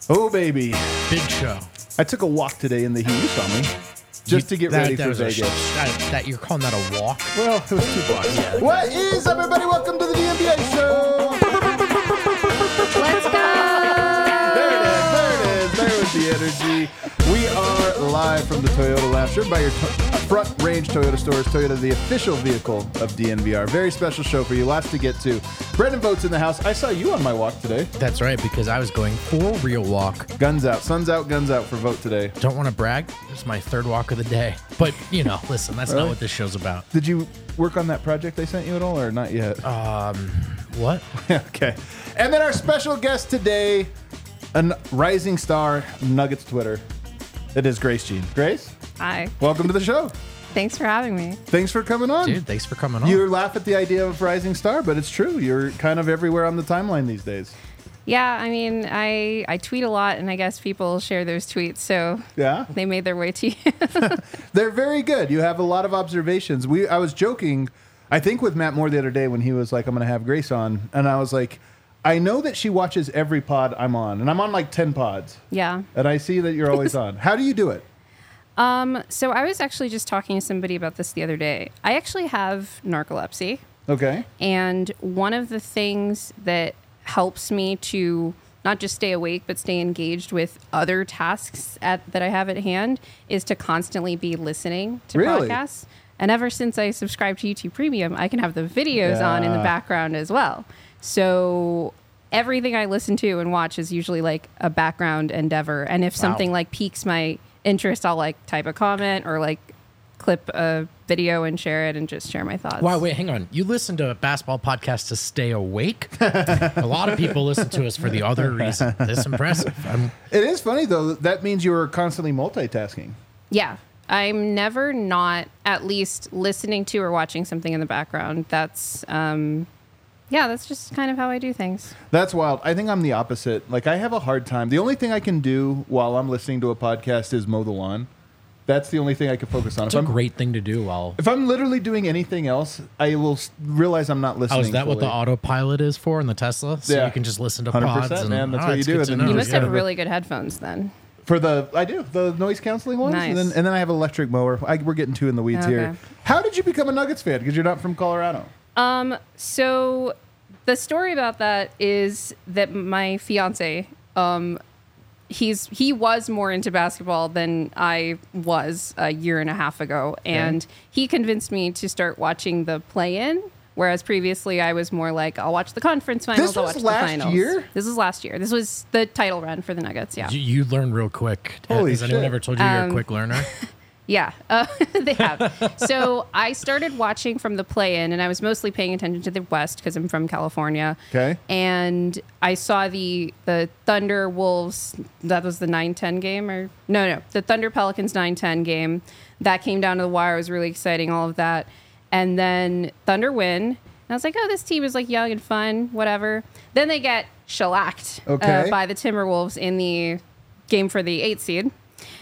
Oh, baby. Big show. I took a walk today in the heat. You saw me. Just to get ready for Vegas. That you're calling that a walk? Well, it was 2 blocks. Yeah. What is up, everybody? Welcome to the DNVR show. Let's go! There it is. There was the energy. We are live from the Toyota Lounge, driven by your Front Range Toyota stores. Toyota, the official vehicle of DNVR. Very special show for you. Lots to get to. Brendan Votes in the house. I saw you on my walk today. That's right, because I was going for a real walk. Guns out. Sun's out, guns out for Vote today. Don't want to brag. It's my third walk of the day. But, you know, listen, that's Really? not what this show's about. Did you work on that project I sent you at all, or not yet? What? Okay. And then our special guest today, a rising star, Nuggets Twitter. It is Grace Jean. Grace, Hi. welcome to the show. Thanks for having me. Thanks for coming on. Dude, thanks for coming on. You laugh at the idea of rising star, but it's true. You're kind of everywhere on the timeline these days. Yeah, I mean, I tweet a lot, and I guess people share those tweets, so Yeah? they made their way to you. They're very good. You have a lot of observations. I was joking, I think with Matt Moore the other day when he was like, I'm going to have Grace on. And I was like, I know that she watches every pod I'm on. And I'm on like 10 pods. Yeah. And I see that you're always on. How do you do it? So I was actually just talking to somebody about this the other day. I actually have narcolepsy. Okay. And one of the things that helps me to not just stay awake, but stay engaged with other tasks that I have at hand is to constantly be listening to Really? podcasts. And ever since I subscribed to YouTube Premium, I can have the videos on in the Yeah. background as well. So everything I listen to and watch is usually like a background endeavor. And if something like piques my interest, I'll like type a comment or like clip a video and share it and just share my thoughts. Wow, wait, hang on. You listen to a basketball podcast to stay awake? A lot of people listen to us for the other reason. That's impressive. It is funny, though. That means you were constantly multitasking. Yeah. I'm never not at least listening to or watching something in the background. That's that's just kind of how I do things. That's wild. I think I'm the opposite. Like, I have a hard time. The only thing I can do while I'm listening to a podcast is mow the lawn. That's the only thing I can focus on. It's a great thing to do while... If I'm literally doing anything else, I will realize I'm not listening. Oh, is that what the fully. autopilot is for in the Tesla? So Yeah. you can just listen to 100%, pods? And, man. That's what you it's do. good to And then know. You must Yeah. have really good headphones then. I do the noise canceling ones, Nice. and then I have an electric mower. We're getting too in the weeds here. Okay. How did you become a Nuggets fan? Because you're not from Colorado. So the story about that is that my fiance, he was more into basketball than I was a year and a half ago, and he convinced me to start watching the play-in. Whereas previously I was more like, I'll watch the conference finals. This I'll was watch last the finals. year? This was last year. This was the title run for the Nuggets. Yeah. You learn real quick. Holy Has anyone shit. ever told you you're a quick learner? Yeah, they have. So I started watching from the play-in, and I was mostly paying attention to the West because I'm from California. Okay. And I saw the Thunder Wolves. That was the 9-10 game, or no, the Thunder Pelicans 9-10 game. That came down to the wire. It was really exciting. All of that, and then Thunder win. And I was like, oh, this team is like young and fun, whatever. Then they get shellacked by the Timberwolves in the game for the 8th seed.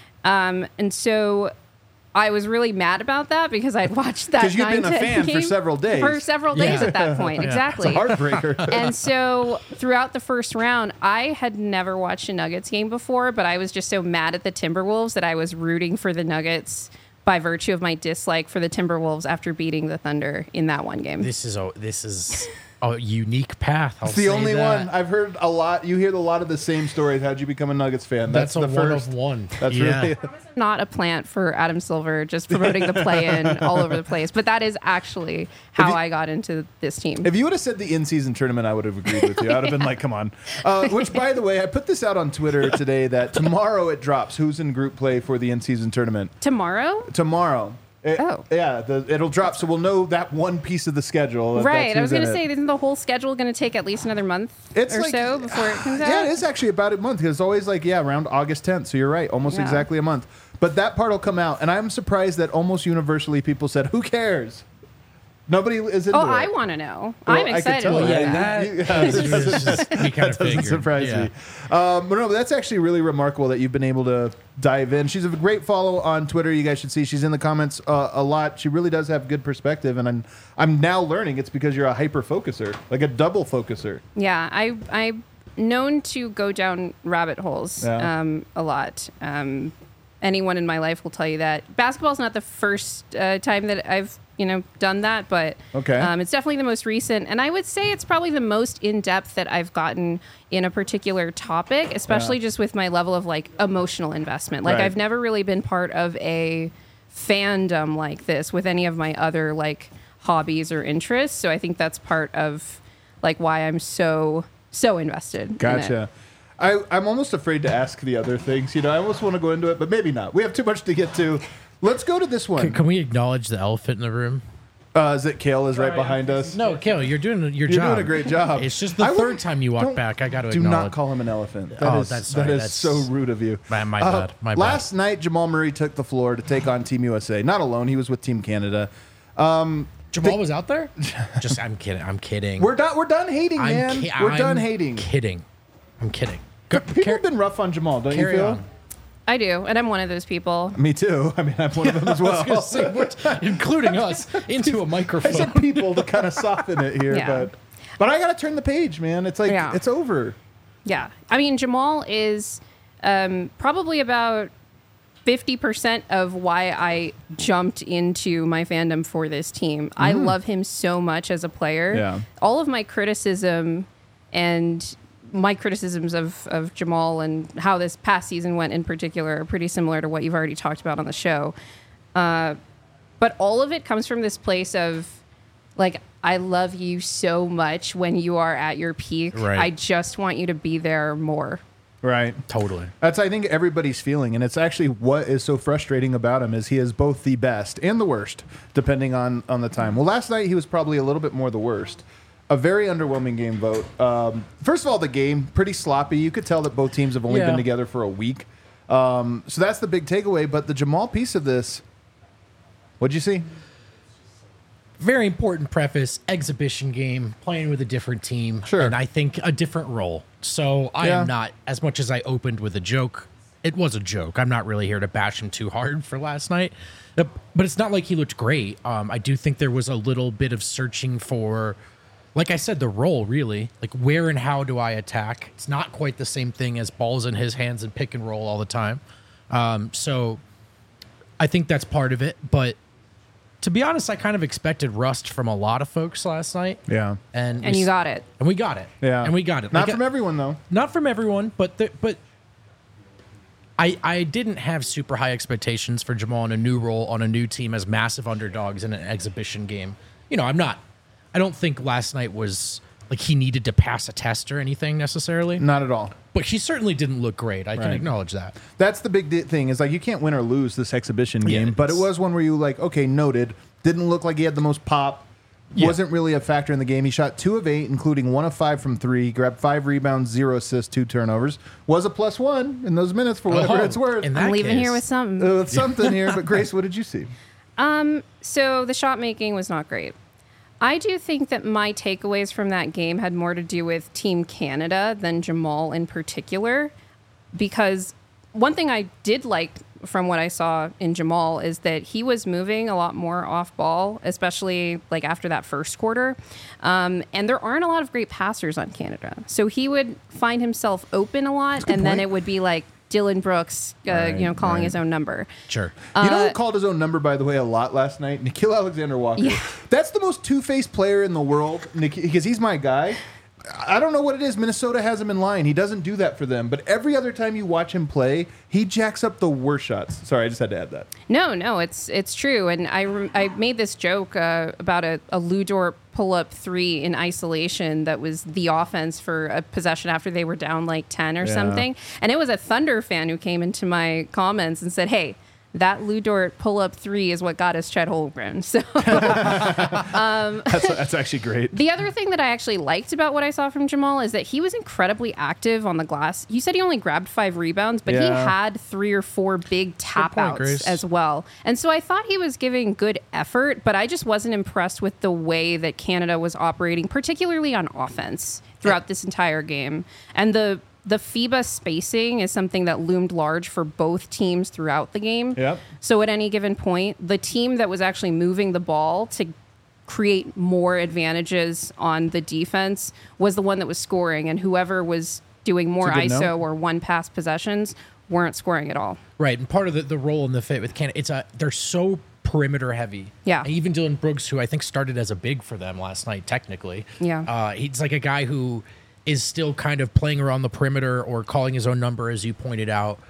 And so I was really mad about that because I'd watched that 'Cause you'd been a 9-10 fan for game several days. For several days Yeah. at that point, exactly. It's a heartbreaker. And so throughout the first round, I had never watched a Nuggets game before, but I was just so mad at the Timberwolves that I was rooting for the Nuggets by virtue of my dislike for the Timberwolves after beating the Thunder in that one game. This is a unique path. It's the only one. I've heard a lot. You hear a lot of the same stories. How'd you become a Nuggets fan? That's a the one first. of one. That's Yeah. really. Not a plant for Adam Silver, just promoting the play-in all over the place. But that is actually how I got into this team. If you would have said the in-season tournament, I would have agreed with you. I would have been like, come on. Which, by the way, I put this out on Twitter today that tomorrow it drops. Who's in group play for the in-season tournament? Tomorrow? Tomorrow. Yeah, it'll drop, so we'll know that one piece of the schedule. Right. I was going to to say, isn't the whole schedule going to take at least another month so before it comes out? Yeah, it is actually about a month. Because it's always like, around August 10th. So you're right, almost exactly a month. But that part will come out. And I'm surprised that almost universally people said, who cares? Nobody is into it. I want to know. Well, I'm I could excited tell. about Yeah, that. We kind of Doesn't figured. surprise Yeah. me. But no, but that's actually really remarkable that you've been able to dive in. She's a great follow on Twitter. You guys should see. She's in the comments a lot. She really does have good perspective, and I'm now learning it's because you're a hyper focuser, like a double focuser. Yeah, I known to go down rabbit holes a lot. Anyone in my life will tell you that. Basketball is not the first time that I've done that, but it's definitely the most recent. And I would say it's probably the most in-depth that I've gotten in a particular topic, especially just with my level of like emotional investment. Like I've never really been part of a fandom like this with any of my other like hobbies or interests. So I think that's part of like why I'm so invested. Gotcha. In it. I'm almost afraid to ask the other things. I almost want to go into it, but maybe not. We have too much to get to. Let's go to this one. Can we acknowledge the elephant in the room? Is it Kale is right behind us? No, Kale, you're doing your You're job. doing a great job. It's just the third time you walk back. I got to do acknowledge. not call him an elephant. That's so rude of you. My bad. My bad. Last night, Jamal Murray took the floor to take on Team USA. Not alone. He was with Team Canada. Jamal was out there? I'm kidding. We're done hating, man. We're done hating. I'm kidding. People have been rough on Jamal, don't you feel? On. I do, and I'm one of those people. Me too. I mean, I'm one of them as well. I was gonna say, including us, into a microphone. I said people to kind of soften it here, but I got to turn the page, man. It's like it's over. Yeah, I mean, Jamal is probably about 50% of why I jumped into my fandom for this team. I love him so much as a player. Yeah. All of my criticism and my criticisms of Jamal and how this past season went in particular are pretty similar to what you've already talked about on the show. But all of it comes from this place of, like, I love you so much when you are at your peak. Right. I just want you to be there more. Right. Totally. That's, I think, everybody's feeling. And it's actually what is so frustrating about him is he is both the best and the worst, depending on the time. Well, last night he was probably a little bit more the worst. A very underwhelming game vote. First of all, the game, pretty sloppy. You could tell that both teams have only been together for a week. So that's the big takeaway. But the Jamal piece of this, what'd you see? Very important preface, exhibition game, playing with a different team. Sure. And I think a different role. So I am not, as much as I opened with a joke, it was a joke. I'm not really here to bash him too hard for last night. But it's not like he looked great. I do think there was a little bit of searching for, like I said, the role, really. Like, where and how do I attack? It's not quite the same thing as balls in his hands and pick and roll all the time. So I think that's part of it. But to be honest, I kind of expected rust from a lot of folks last night. Yeah. And you got it. And we got it. Yeah. And we got it. Not from everyone, though. Not from everyone, but I didn't have super high expectations for Jamal in a new role on a new team as massive underdogs in an exhibition game. I don't think last night was like he needed to pass a test or anything necessarily. Not at all. But he certainly didn't look great. I can acknowledge that. That's the big thing is like you can't win or lose this exhibition game, but it was one where you like, okay, noted. Didn't look like he had the most pop. Wasn't really a factor in the game. He shot 2 of 8, including 1 of 5 from 3. Grabbed 5 rebounds, 0 assists, 2 turnovers. Was a +1 in those minutes for whatever it's worth. I'm leaving here with something. With something here. But Grace, what did you see? So the shot making was not great. I do think that my takeaways from that game had more to do with Team Canada than Jamal in particular, because one thing I did like from what I saw in Jamal is that he was moving a lot more off ball, especially like after that first quarter. And there aren't a lot of great passers on Canada. So he would find himself open a lot, and then it would be like Dylan Brooks, calling his own number. Sure. You know who called his own number, by the way, a lot last night? Nikhil Alexander-Walker. Yeah. That's the most two-faced player in the world, because he's my guy. I don't know what it is. Minnesota has him in line. He doesn't do that for them. But every other time you watch him play, he jacks up the worst shots. Sorry, I just had to add that. No, it's true. And I made this joke about a Lou Dort pull-up 3 in isolation that was the offense for a possession after they were down like 10 or something. And it was a Thunder fan who came into my comments and said, hey, that Lou Dort pull-up 3 is what got us Chet Holmgren. So that's actually great. The other thing that I actually liked about what I saw from Jamal is that he was incredibly active on the glass. You said he only grabbed 5 rebounds, but he had 3 or 4 big tap outs as well. And so I thought he was giving good effort, but I just wasn't impressed with the way that Canada was operating, particularly on offense throughout this entire game. And the FIBA spacing is something that loomed large for both teams throughout the game. Yep. So at any given point, the team that was actually moving the ball to create more advantages on the defense was the one that was scoring, and whoever was doing more That's a good ISO note. or one pass possessions weren't scoring at all. Right, and part of the role in the fit with Canada, they're so perimeter heavy. Yeah. And even Dylan Brooks, who I think started as a big for them last night, technically. Yeah. He's like a guy who is still kind of playing around the perimeter or calling his own number, as you pointed out.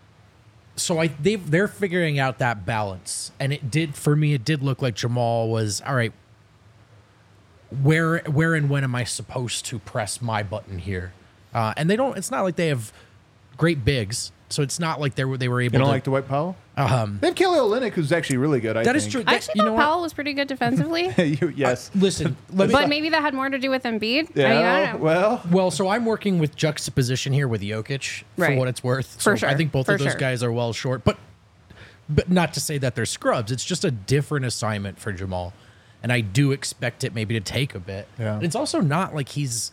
So they're figuring out that balance, and it did look like Jamal was all right. Where and when am I supposed to press my button here? And they don't. It's not like they have great bigs, so it's not like they were able. You don't to like Dwight Powell? They have Kelly Olynyk, who's actually really good. I That think. is true. I actually You know thought what? Powell was pretty good defensively. Yes. Listen, But maybe that had more to do with Embiid. Yeah. I mean, I don't know. well, so I'm working with juxtaposition here with Jokic for Right. what it's worth. For So sure. I think both For of those sure. guys are well short, but not to say that they're scrubs. It's just a different assignment for Jamal, and I do expect it maybe to take a bit. Yeah. And it's also not like he's,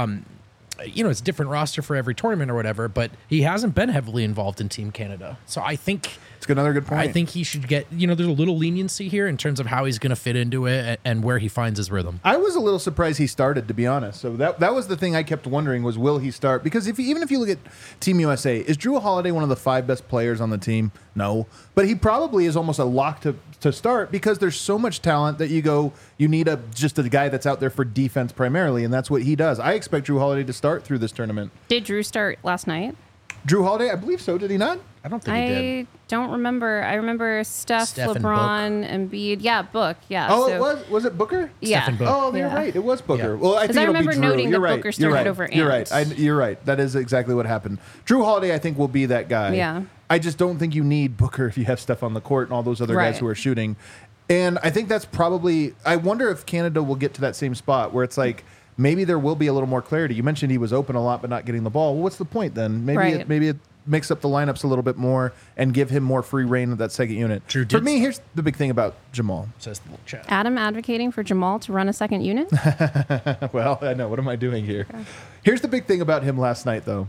it's a different roster for every tournament or whatever, but he hasn't been heavily involved in Team Canada. So I think. It's another good point. I think he should get, there's a little leniency here in terms of how he's going to fit into it and where he finds his rhythm. I was a little surprised he started, to be honest. So that was the thing I kept wondering was, will he start? Because even if you look at Team USA, is Drew Holiday one of the 5 best players on the team? No. But he probably is almost a lock to start because there's so much talent that you need just a guy that's out there for defense primarily, and that's what he does. I expect Drew Holiday to start through this tournament. Did Drew start last night? Drew Holiday, I believe so. Did he not? I don't think he did. I don't remember. I remember Steph and LeBron, Embiid. Yeah, Book. Yeah. Oh, so, it was? Was it Booker? Yeah. Steph and Book. Oh, you're Yeah. right. It was Booker. Yeah. Well, I 'Cause think I it'll be remember Drew. noting You're that right. Booker You're started right. over You're right. Ant. You're right. That is exactly what happened. Drew Holiday, I think, will be that guy. Yeah. I just don't think you need Booker if you have Steph on the court and all those other guys Right. who are shooting. And I think that's probably. I wonder if Canada will get to that same spot where it's like maybe there will be a little more clarity. You mentioned he was open a lot but not getting the ball. Well, what's the point then? Maybe Right. it mix up the lineups a little bit more and give him more free reign of that second unit. Drew For did me, here's the big thing about Jamal. Says the little chat. Adam advocating for Jamal to run a second unit. Well, I know. What am I doing here? Here's the big thing about him last night, though.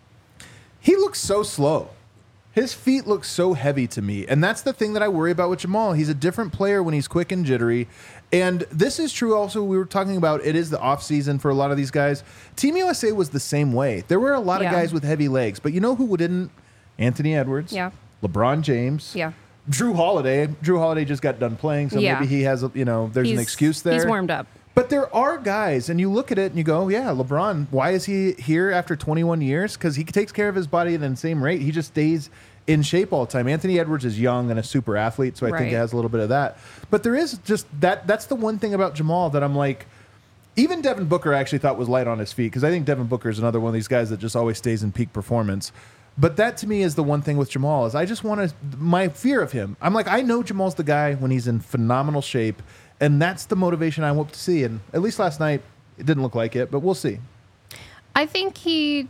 He looks so slow. His feet look so heavy to me. And that's the thing that I worry about with Jamal. He's a different player when he's quick and jittery. And this is true also. We were talking about it is the off season for a lot of these guys. Team USA was the same way. There were a lot of Yeah. guys with heavy legs. But you know who didn't? Anthony Edwards. Yeah. LeBron James. Yeah. Drew Holiday. Drew Holiday just got done playing. So Yeah. maybe he has, there's an He's- excuse there. He's warmed up. But there are guys, and you look at it and you go, yeah, LeBron, why is he here after 21 years? Because he takes care of his body at the same rate. He just stays in shape all the time. Anthony Edwards is young and a super athlete, so I think Right. it has a little bit of that. But there is just that's the one thing about Jamal that I'm like, even Devin Booker I actually thought was light on his feet, because I think Devin Booker is another one of these guys that just always stays in peak performance. But that to me is the one thing with Jamal is I just want to, my fear of him. I'm like, I know Jamal's the guy when he's in phenomenal shape, and that's the motivation I hope to see. And at least last night, it didn't look like it, but we'll see. I think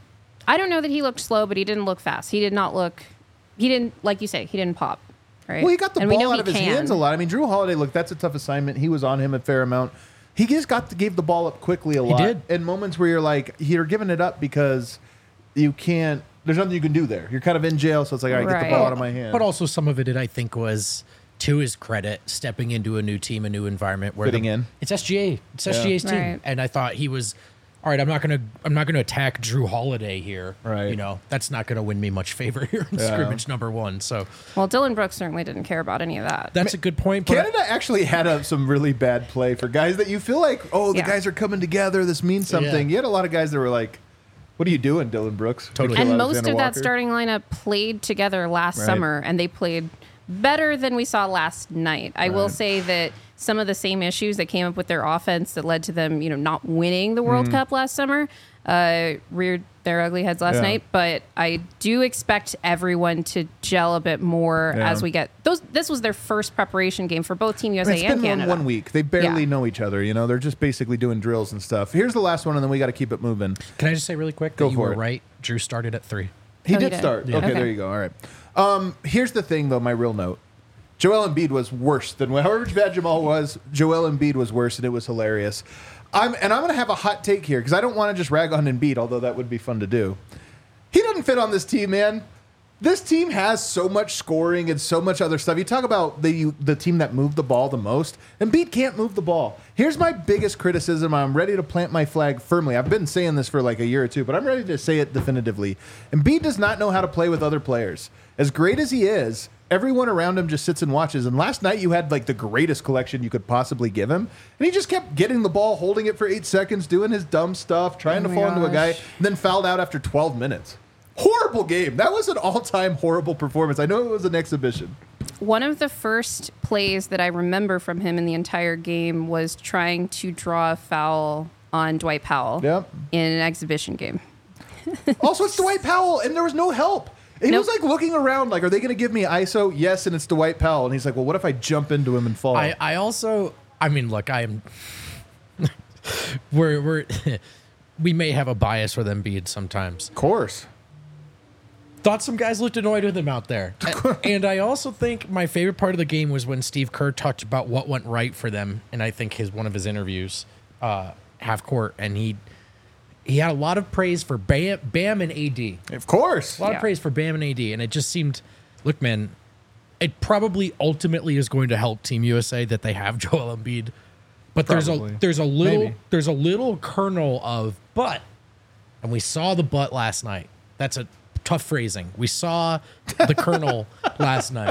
I don't know that he looked slow, but he didn't look fast. He didn't, like you say, he didn't pop. Right? Well, he got the And we ball know out he of his can. hands a lot. I mean, Drew Holiday, look, that's a tough assignment. He was on him a fair amount. He just gave the ball up quickly a lot. did. In moments where you're like, you're giving it up because you can't, there's nothing you can do there. You're kind of in jail, so it's like, all right, get the Right. ball out of my hand. But also some of it, I think, was to his credit, stepping into a new team, a new environment where Fitting in. It's SGA. It's SGA's team, Right. and I thought he was. All right, I'm not gonna attack Drew Holiday here. Right. That's not gonna win me much favor here in scrimmage number 1. So Well, Dylan Brooks certainly didn't care about any of that. that's a good point. But Canada actually had some really bad play for guys that you feel like, oh, the Yeah. guys are coming together. This means something. Yeah. You had a lot of guys that were like, what are you doing, Dylan Brooks? Totally. And Nikhil most of that Alexander-Walker. starting lineup played together last Right. summer, and they played better than we saw last night. I will Right. say that some of the same issues that came up with their offense that led to them, not winning the World Cup last summer, reared their ugly heads last Yeah. night. But I do expect everyone to gel a bit more Yeah. as we get those. This was their first preparation game for both Team USA It's and been Canada. one week. They barely Yeah. know each other. They're just basically doing drills and stuff. Here's the last one, and then we got to keep it moving. can I just say really quick Go that you for were it. right? Drew started at 3. He Oh, he did did. start. Yeah. Okay, Okay. there you go. All right. Here's the thing, though, my real note. Joel Embiid was worse than however bad Jamal was. Joel Embiid was worse, and it was hilarious. I'm going to have a hot take here because I don't want to just rag on Embiid, although that would be fun to do. He doesn't fit on this team, man. This team has so much scoring and so much other stuff. You talk about the team that moved the ball the most. Embiid can't move the ball. Here's my biggest criticism. I'm ready to plant my flag firmly. I've been saying this for like a year or two, but I'm ready to say it definitively. Embiid does not know how to play with other players. As great as he is, everyone around him just sits and watches. And last night you had like the greatest collection you could possibly give him. And he just kept getting the ball, holding it for 8 seconds, doing his dumb stuff, trying to fall into a guy, and then fouled out after 12 minutes. Horrible game. That was an all-time horrible performance. I know it was an exhibition. One of the first plays that I remember from him in the entire game was trying to draw a foul on Dwight Powell in an exhibition game. Also, it's Dwight Powell, and there was no help. He was like looking around like, are they going to give me ISO? Yes, and it's Dwight Powell. And he's like, well, what if I jump into him and fall? I mean, look, I am... we may have a bias with Embiid sometimes. Of course. Thought some guys looked annoyed with him out there. And I also think my favorite part of the game was when Steve Kerr talked about what went right for them. And I think one of his interviews, half court, and he had a lot of praise for Bam and AD. Of course. A lot of praise for Bam and AD. And it just seemed, look, man, it probably ultimately is going to help Team USA that they have Joel Embiid. But there's a little kernel of but, and we saw the but last night. That's a tough phrasing. We saw the kernel last night.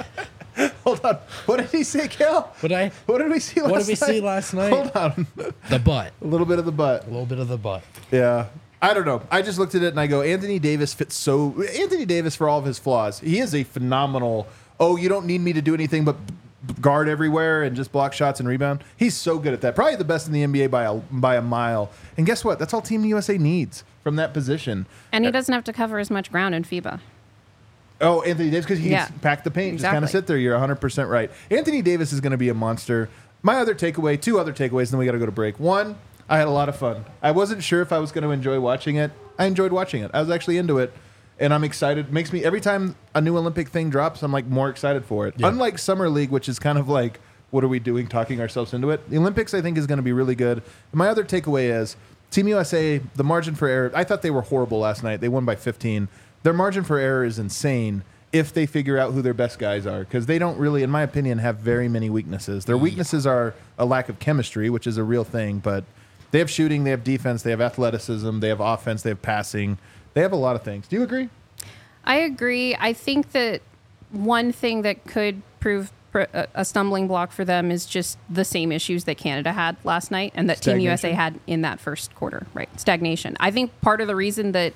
Hold on. What did he say, Cal? What did we see last night? Hold on. The butt. A little bit of the butt. A little bit of the butt. Yeah. I don't know. I just looked at it and I go, Anthony Davis fits so... Anthony Davis, for all of his flaws, he is a phenomenal... Oh, you don't need me to do anything but guard everywhere and just block shots and rebound. He's so good at that. Probably the best in the NBA by a mile. And guess what? That's all Team USA needs from that position. And he doesn't have to cover as much ground in FIBA. Oh, Anthony Davis, because he can pack the paint, just kind of sit there. You're 100% right. Anthony Davis is going to be a monster. My other takeaway, 2 other takeaways, and then we got to go to break. 1, I had a lot of fun. I wasn't sure if I was going to enjoy watching it. I enjoyed watching it. I was actually into it, and I'm excited. Makes me, every time a new Olympic thing drops, I'm like more excited for it. Yeah. Unlike Summer League, which is kind of like, what are we doing, talking ourselves into it? The Olympics, I think, is going to be really good. And my other takeaway is Team USA, the margin for error, I thought they were horrible last night. They won by 15. Their margin for error is insane if they figure out who their best guys are, because they don't really, in my opinion, have very many weaknesses. Their weaknesses are a lack of chemistry, which is a real thing, but they have shooting, they have defense, they have athleticism, they have offense, they have passing. They have a lot of things. Do you agree? I agree. I think that one thing that could prove a stumbling block for them is just the same issues that Canada had last night and that Team USA had in that first quarter, right? Stagnation. I think part of the reason that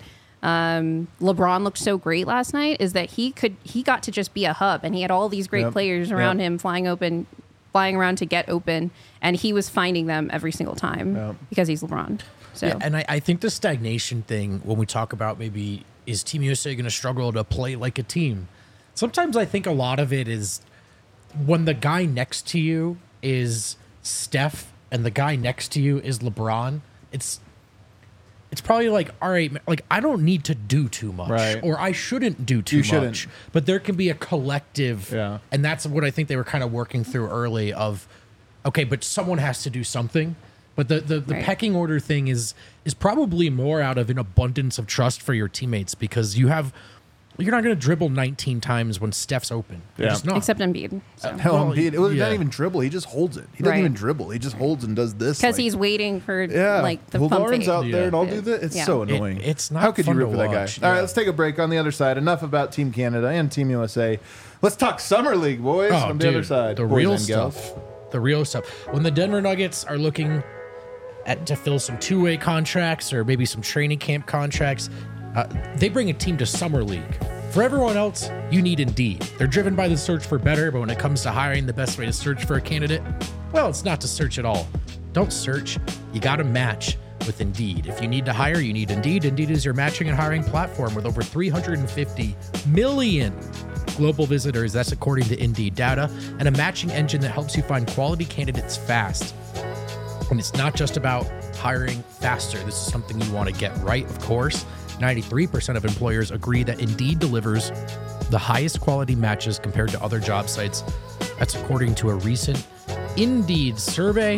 LeBron looked so great last night is that he got to just be a hub, and he had all these great players around him flying around to get open, and he was finding them every single time because he's LeBron. So, yeah, and I think the stagnation thing, when we talk about maybe is Team USA going to struggle to play like a team, sometimes I think a lot of it is when the guy next to you is Steph and the guy next to you is LeBron. It's probably like, all right, like I don't need to do too much, or I shouldn't do too much. But there can be a collective, and that's what I think they were kind of working through early. Of okay, but someone has to do something. But the pecking order thing is probably more out of an abundance of trust for your teammates, because you're not going to dribble 19 times when Steph's open. Except Embiid. So. Embiid. It was not even dribble. He just holds it. He doesn't even dribble. He just holds and does this. Because he's waiting for like the pump fake. Out there and I'll do this. It's so annoying. It's not. How could you root for that guy? Yeah. All right, let's take a break. On the other side, enough about Team Canada and Team USA. Let's talk Summer League, boys. On the other side, the real stuff. The real stuff. When the Denver Nuggets are looking to fill some two-way contracts or maybe some training camp contracts, they bring a team to Summer League. For everyone else, you need Indeed. They're driven by the search for better, but when it comes to hiring, the best way to search for a candidate, well, it's not to search at all. Don't search. You got to match with Indeed. If you need to hire, you need Indeed. Indeed is your matching and hiring platform with over 350 million global visitors. That's according to Indeed data, and a matching engine that helps you find quality candidates fast. And it's not just about hiring faster. This is something you want to get right, of course. 93% of employers agree that Indeed delivers the highest quality matches compared to other job sites. That's according to a recent Indeed survey.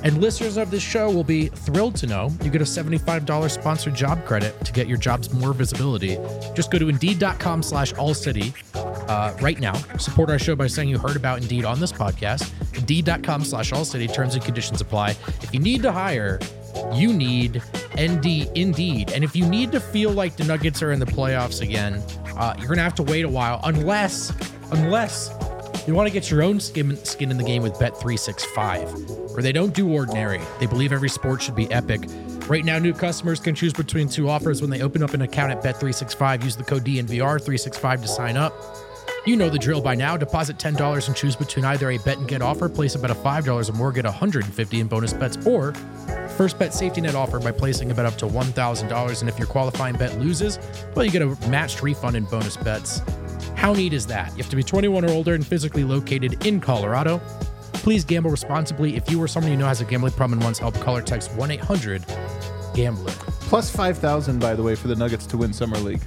And listeners of this show will be thrilled to know you get a $75 sponsored job credit to get your jobs more visibility. Just go to Indeed.com/AllCity right now. Support our show by saying you heard about Indeed on this podcast. Indeed.com/AllCity. Terms and conditions apply. If you need to hire, you need Indeed. And if you need to feel like the Nuggets are in the playoffs again, you're going to have to wait a while unless you want to get your own skin in the game with Bet365, where they don't do ordinary. They believe every sport should be epic. Right now, new customers can choose between 2 offers when they open up an account at Bet365. Use the code DNVR365 to sign up. You know the drill by now. Deposit $10 and choose between either a bet and get offer, place a bet of $5 or more, get $150 in bonus bets, or first bet safety net offer by placing a bet up to $1,000. And if your qualifying bet loses, well, you get a matched refund in bonus bets. How neat is that? You have to be 21 or older and physically located in Colorado. Please gamble responsibly. If you or someone you know has a gambling problem and wants help, call or text 1-800-GAMBLER. Plus 5,000, by the way, for the Nuggets to win Summer League.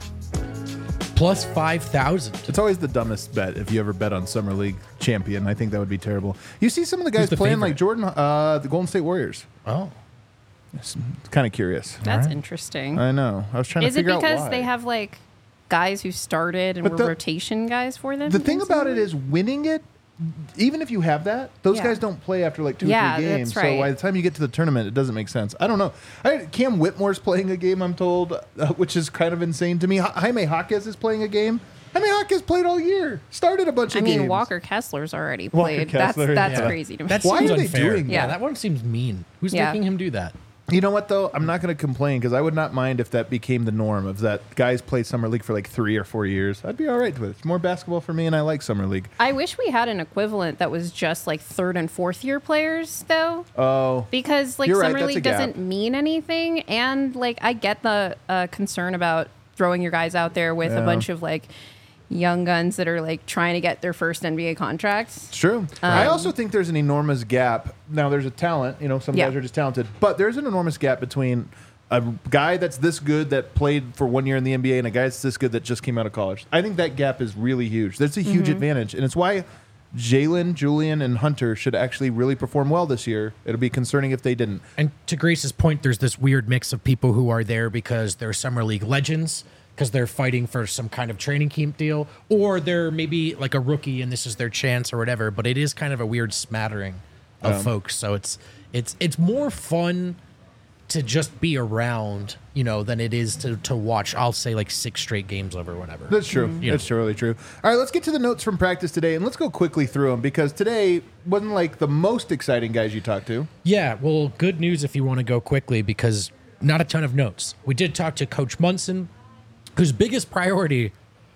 Plus 5,000. It's always the dumbest bet if you ever bet on Summer League champion. I think that would be terrible. You see some of the guys playing favorite? like Jordan, the Golden State Warriors. Oh. It's kind of curious. That's interesting. I know. I was trying to Is it figure out why. because they have like guys who started and But were rotation guys for them? The thing about it is winning it, even if you have that, those guys don't play after like 2 or 3 games. That's right. So by the time you get to the tournament, it doesn't make sense. I don't know. Cam Whitmore's playing a game, I'm told, which is kind of insane to me. Jaime Jaquez is playing a game. Jaime Jaquez played all year. Started a bunch of games. I mean, Walker Kessler's already played. Kessler, that's yeah. crazy to me. That Why seems are they unfair. doing that? Yeah, that one seems mean. Who's Yeah. making him do that? You know what, though? I'm not going to complain because I would not mind if that became the norm of that guys play Summer League for like 3 or 4 years. I'd be all right with it. It's more basketball for me, and I like Summer League. I wish we had an equivalent that was just like 3rd and 4th year players, though. Oh. Because like You're right, Summer that's a League gap. doesn't mean anything. And like I get the concern about throwing your guys out there with a bunch of like young guns that are like trying to get their first NBA contracts. It's true. I also think there's an enormous gap. Now, there's a talent. You know, some Yeah. guys are just talented. But there's an enormous gap between a guy that's this good that played for 1 year in the NBA and a guy that's this good that just came out of college. I think that gap is really huge. That's a huge advantage. And it's why Jalen, Julian, and Hunter should actually really perform well this year. It'll be concerning if they didn't. And to Grace's point, there's this weird mix of people who are there because they're Summer League legends, because they're fighting for some kind of training camp deal, or they're maybe like a rookie and this is their chance or whatever. But it is kind of a weird smattering of folks. So it's more fun to just be around, you know, than it is to watch, I'll say, like 6 straight games over whatever. That's true. That's totally true. All right, let's get to the notes from practice today, and let's go quickly through them because today wasn't like the most exciting guys you talked to. Yeah, well, good news if you want to go quickly because not a ton of notes. We did talk to Coach Munson, whose biggest priority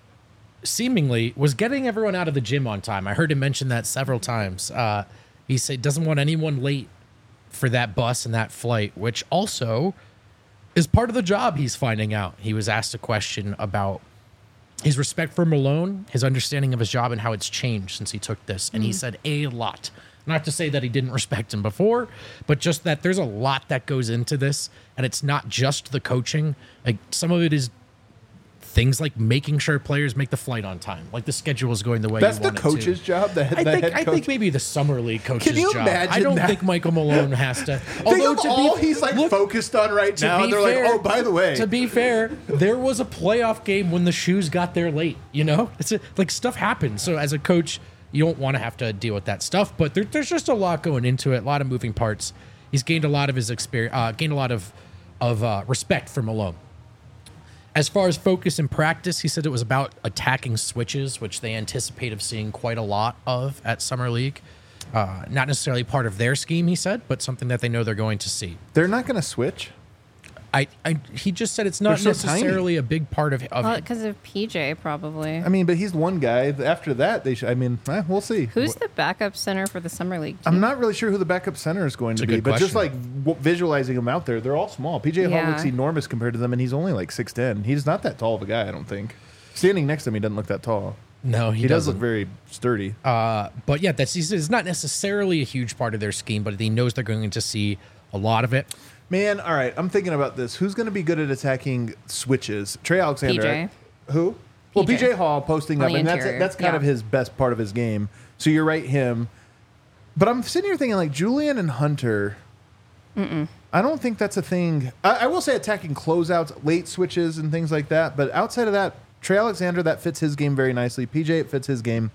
seemingly was getting everyone out of the gym on time. I heard him mention that several times. He said doesn't want anyone late for that bus and that flight, which also is part of the job he's finding out. He was asked a question about his respect for Malone, his understanding of his job, and how it's changed since he took this. And he said a lot. Not to say that he didn't respect him before, but just that there's a lot that goes into this, and it's not just the coaching. Like some of it is things like making sure players make the flight on time, like the schedule is going the way That's you the want coach's it to. job. The head I coach. think maybe the summer league coach's Can you job. imagine I don't that? think Michael Malone has to. Think of all he's like focused on right to now. be And they're fair- like, oh, by the way. To be fair, there was a playoff game when the shoes got there late. You know, like stuff happens. So as a coach, you don't want to have to deal with that stuff. But there's just a lot going into it. A lot of moving parts. He's gained a lot of his experience. Gained a lot of respect for Malone. As far as focus in practice, he said it was about attacking switches, which they anticipate of seeing quite a lot of at Summer League. Not necessarily part of their scheme, he said, but something that they know they're going to see. They're not going to switch. He just said it's not They're so necessarily a big part of Because of PJ, probably. I mean, but he's one guy. After that, they should. I mean, we'll see. Who's the backup center for the Summer League team? I'm not really sure who the backup center is going to a be, good but just like question. visualizing them out there, they're all small. PJ Hall Yeah. looks enormous compared to them, and he's only like 6'10". He's not that tall of a guy, I don't think. Standing next to him, he doesn't look that tall. No, He does doesn't. look very sturdy. But yeah, it's not necessarily a huge part of their scheme, but he knows they're going to see a lot of it. Man, all right, I'm thinking about this. Who's going to be good at attacking switches? Trey Alexander. PJ. Right? Who? Well, PJ. PJ Hall posting On up, the and interior, that's kind of yeah. his best part of his game. So you're right, him. But I'm sitting here thinking like Julian and Hunter. I don't think that's a thing. I will say attacking closeouts, late switches, and things like that. But outside of that, Trey Alexander, that fits his game very nicely. PJ, it fits his game.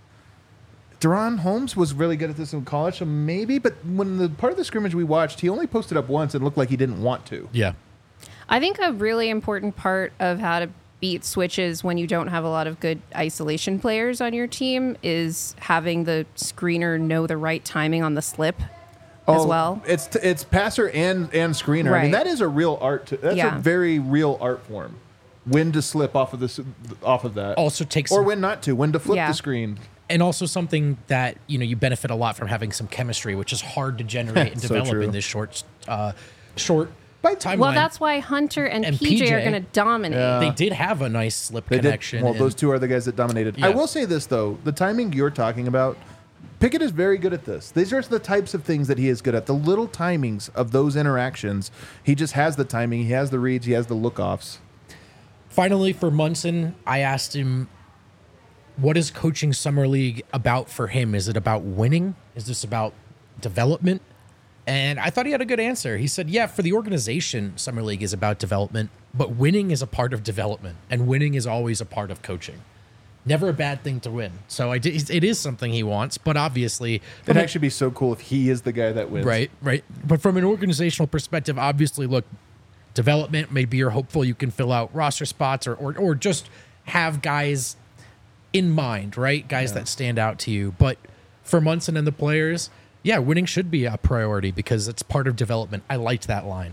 Deron Holmes was really good at this in college, so maybe. But when the part of the scrimmage we watched, he only posted up once and looked like he didn't want to. Yeah. I think a really important part of how to beat switches when you don't have a lot of good isolation players on your team is having the screener know the right timing on the slip as well. It's passer and screener. Right. I mean, that is a real art. That's Yeah. a very real art form. When to slip off of that. Also takes or when not to. When to flip Yeah. the screen. and also something that you benefit a lot from having some chemistry, which is hard to generate and So develop true. in this short timeline. Well, that's why Hunter and PJ are going to dominate. They did have a nice slip They connection. did. Well, and- those two are the guys that dominated. Yeah. I will say this, though. The timing you're talking about, Pickett is very good at this. These are the types of things that he is good at. The little timings of those interactions. He just has the timing. He has the reads. He has the look-offs. Finally, for Munson, I asked him, what is coaching Summer League about for him? Is it about winning? Is this about development? And I thought he had a good answer. He said, yeah, for the organization, Summer League is about development, but winning is a part of development, and winning is always a part of coaching. Never a bad thing to win. So it is something he wants, but obviously... It'd actually be so cool if he is the guy that wins. Right. But from an organizational perspective, obviously, look, development, maybe you're hopeful you can fill out roster spots or just have guys in mind, right? Guys that stand out to you. But for Munson and the players, yeah, winning should be a priority because it's part of development. I liked that line.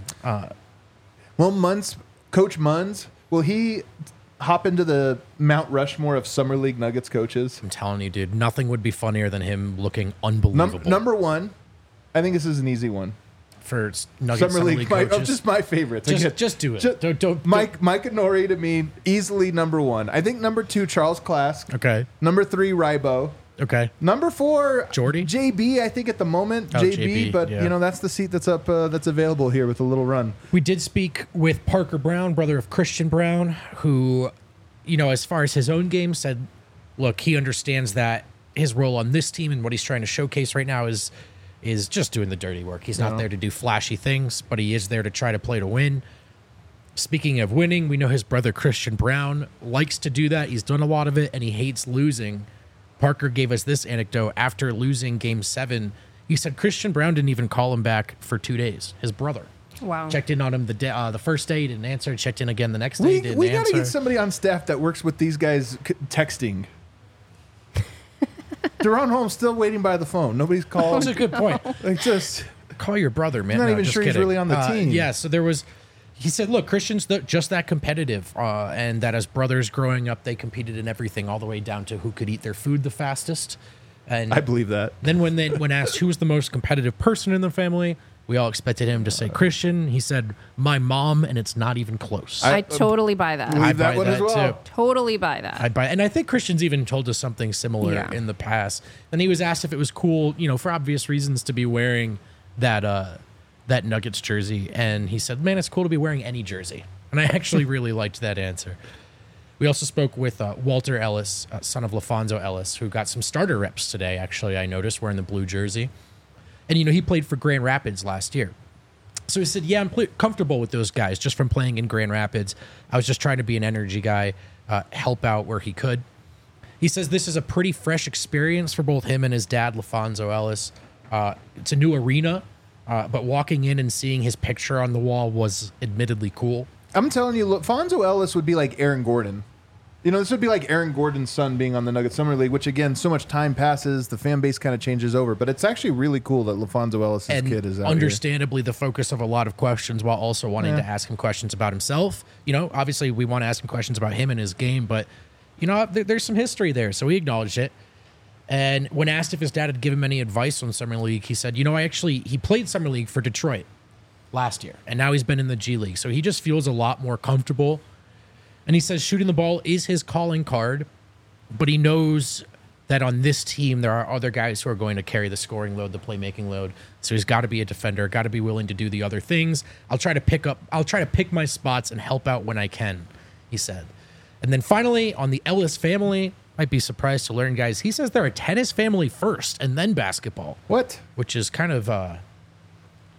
Well, Coach Munz, will he hop into the Mount Rushmore of Summer League Nuggets coaches? I'm telling you, dude, nothing would be funnier than him looking unbelievable. Number one, I think this is an easy one. For Nuggets Summer League, coaches. just my favorites. Just do it. Don't Mike Nori to me, easily number one. I think number two, Charles Klask. Okay. Number three, Rybo. Okay. Number four, Jordy? JB. I think at the moment, Oh, JB, but yeah. that's the seat that's up, that's available here with a little run. We did speak with Parker Brown, brother of Christian Brown, who, as far as his own game, said, look, he understands that his role on this team and what he's trying to showcase right now is just doing the dirty work. He's not there to do flashy things, but he is there to try to play to win. Speaking of winning, we know his brother Christian Brown likes to do that. He's done a lot of it, and he hates losing. Parker gave us this anecdote. After losing Game 7, he said Christian Brown didn't even call him back for 2 days. His brother. Wow. Checked in on him the first day, he didn't answer. Checked in again the next day, he didn't We got to answer. get somebody on staff that works with these guys texting. Deron Holmes still waiting by the phone. Nobody's That called. was a good point. Call your brother, man. I'm not even just sure he's kidding. really on the team. Yeah, so he said, look, Christian's just that competitive, and that as brothers growing up, they competed in everything, all the way down to who could eat their food the fastest. And I believe that. then when asked who was the most competitive person in the family, we all expected him to say Christian. He said, my mom, and it's not even close. I totally buy that. Believe that buy one as well. too. Totally buy that. And I think Christian's even told us something similar Yeah. in the past. And he was asked if it was cool, for obvious reasons, to be wearing that Nuggets jersey. And he said, man, it's cool to be wearing any jersey. And I actually really liked that answer. We also spoke with Walter Ellis, son of LaFonso Ellis, who got some starter reps today, actually, I noticed, wearing the blue jersey. And, he played for Grand Rapids last year. So he said, yeah, I'm comfortable with those guys just from playing in Grand Rapids. I was just trying to be an energy guy, help out where he could. He says this is a pretty fresh experience for both him and his dad, LaFonso Ellis. It's a new arena, but walking in and seeing his picture on the wall was admittedly cool. I'm telling you, Fonzo Ellis would be like Aaron Gordon. This would be like Aaron Gordon's son being on the Nuggets Summer League, which, again, so much time passes, the fan base kind of changes over. But it's actually really cool that LaFonso Ellis' kid is out understandably the focus of a lot of questions while also wanting to ask him questions about himself. Obviously we want to ask him questions about him and his game, but, there's some history there, so he acknowledged it. And when asked if his dad had given him any advice on Summer League, he said, he played Summer League for Detroit last year, and now he's been in the G League, so he just feels a lot more comfortable. And he says shooting the ball is his calling card, but he knows that on this team there are other guys who are going to carry the scoring load, the playmaking load. So he's got to be a defender, got to be willing to do the other things. I'll try to pick my spots and help out when I can, he said. And then finally, on the Ellis family, might be surprised to learn, guys, he says they're a tennis family first and then basketball. What? Which is kind of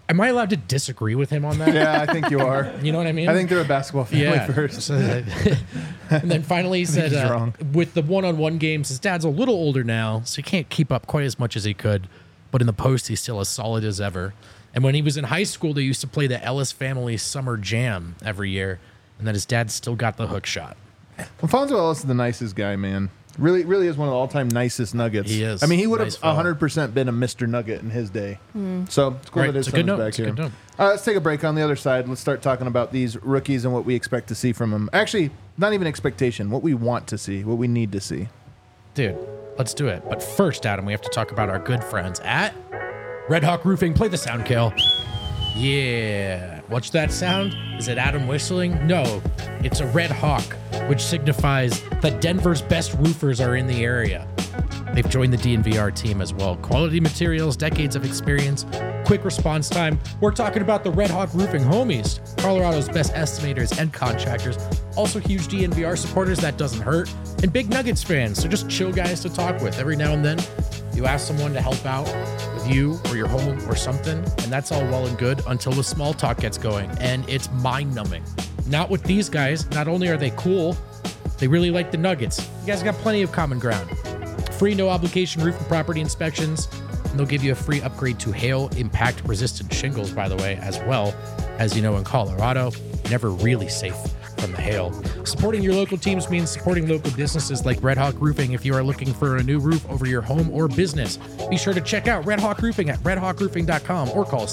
Am I allowed to disagree with him on that? Yeah, I think you are. You know what I mean? I think they're a basketball family first. And then finally he said, he's wrong. with the one-on-one games, his dad's a little older now, so he can't keep up quite as much as he could. But in the post, he's still as solid as ever. And when he was in high school, they used to play the Ellis Family Summer Jam every year, and that his dad still got the hook shot. Alfonso Ellis is the nicest guy, man. Really, really is one of the all-time nicest Nuggets. He is. I mean, he would have Nice fella. 100% been a Mr. Nugget in his day. So it's cool Right, that his it's a good son's note. back It's a here. good note. Let's take a break. On the other side, let's start talking about these rookies and what we expect to see from them. Actually, not even expectation. What we want to see. What we need to see. Dude, let's do it. But first, Adam, we have to talk about our good friends at Red Hawk Roofing. Play the sound, Kale. Yeah. What's that sound? Is it Adam whistling? No, it's a Red Hawk, which signifies that Denver's best roofers are in the area. They've joined the DNVR team as well. Quality materials, decades of experience, quick response time. We're talking about the Red Hawk Roofing homies, Colorado's best estimators and contractors. Also huge DNVR supporters, that doesn't hurt. And big Nuggets fans, so just chill guys to talk with. Every now and then, you ask someone to help out with you or your home or something, and that's all well and good until the small talk gets going, and it's mind-numbing. Not with these guys. Not only are they cool, they really like the Nuggets. You guys got plenty of common ground. Free no-obligation roof and property inspections, and they'll give you a free upgrade to hail impact-resistant shingles, by the way, as well. As you know, in Colorado, never really safe from the hail. Supporting your local teams means supporting local businesses like Red Hawk Roofing. If you are looking for a new roof over your home or business, be sure to check out Red Hawk Roofing at redhawkroofing.com or call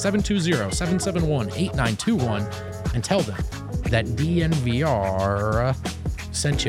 720-771-8921 and tell them that DNVR sent you.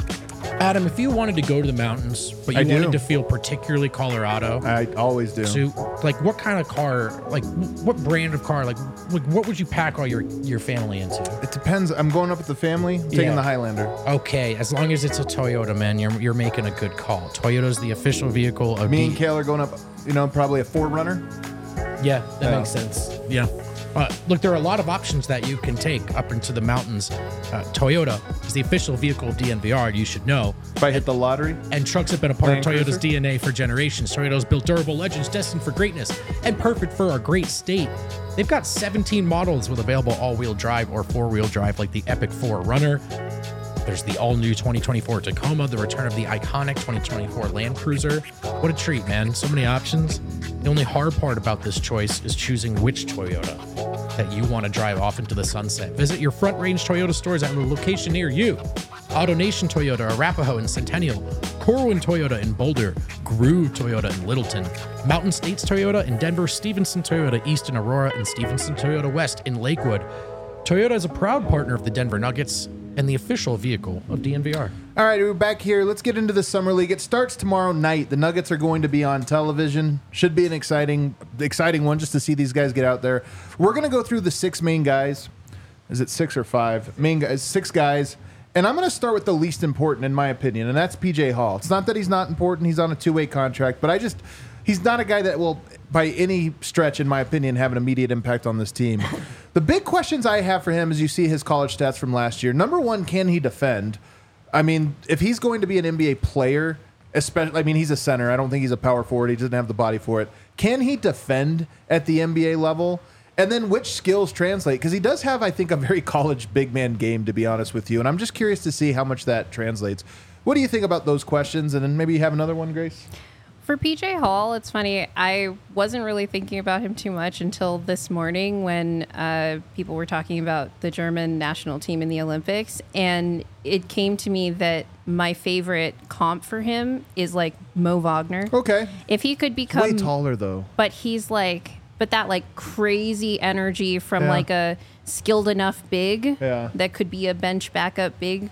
Adam, if you wanted to go to the mountains, but you wanted to feel particularly Colorado, I always do. so like what kind of car, like what brand of car, like what would you pack all your family into? It depends. I'm going up with the family. I'm taking the Highlander. Okay, as long as it's a Toyota, man, you're making a good call. Toyota's the official vehicle of Me and Kale are going up, probably a 4Runner. Yeah, that makes sense. Yeah. Look, there are a lot of options that you can take up into the mountains. Toyota is the official vehicle of DNVR, you should know. If I hit the lottery. And trucks have been a part Land of Toyota's Cruiser? DNA for generations. Toyota's built durable legends destined for greatness and perfect for our great state. They've got 17 models with available all-wheel drive or four-wheel drive, like the Epic 4Runner. There's the all-new 2024 Tacoma, the return of the iconic 2024 Land Cruiser. What a treat, man. So many options. The only hard part about this choice is choosing which Toyota that you want to drive off into the sunset. Visit your Front Range Toyota stores at a location near you. AutoNation Toyota, Arapahoe and Centennial, Corwin Toyota in Boulder, Grue Toyota in Littleton, Mountain States Toyota in Denver, Stevenson Toyota East in Aurora, and Stevenson Toyota West in Lakewood. Toyota is a proud partner of the Denver Nuggets and the official vehicle of DNVR. All right, we're back here. Let's get into the Summer League. It starts tomorrow night. The Nuggets are going to be on television. Should be an exciting one just to see these guys get out there. We're going to go through the 6 main guys. Is it 6 or 5? Main guys, 6 guys. And I'm going to start with the least important, in my opinion, and that's PJ Hall. It's not that he's not important. He's on a 2-way contract, but he's not a guy that will, by any stretch, in my opinion, have an immediate impact on this team. The big questions I have for him is you see his college stats from last year. Number one, can he defend? I mean, if he's going to be an NBA player, especially, he's a center. I don't think he's a power forward. He doesn't have the body for it. Can he defend at the NBA level? And then which skills translate? Because he does have, I think, a very college big man game, to be honest with you. And I'm just curious to see how much that translates. What do you think about those questions? And then maybe you have another one, Grace? For PJ Hall, it's funny. I wasn't really thinking about him too much until this morning when people were talking about the German national team in the Olympics. And it came to me that my favorite comp for him is like Mo Wagner. Okay. If he could become Way taller, though. But he's like, but that like crazy energy from like a skilled enough big that could be a bench backup big,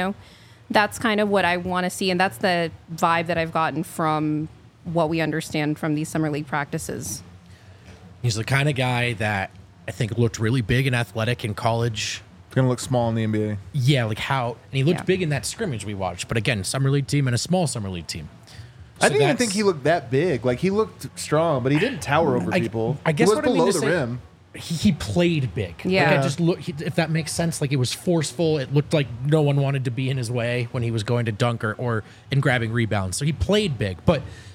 that's kind of what I want to see. And that's the vibe that I've gotten from what we understand from these summer league practices. He's the kind of guy that I think looked really big and athletic in college. It's going to look small in the NBA. Yeah, like how, and he looked big in that scrimmage we watched. But again, summer league team and a small summer league team. So I didn't even think he looked that big. Like, he looked strong, but he didn't tower over people. I guess he was what I mean below to the say, rim. He played big. Yeah. Like I just look, if that makes sense, like it was forceful. It looked like no one wanted to be in his way when he was going to dunk or in grabbing rebounds. So he played big. But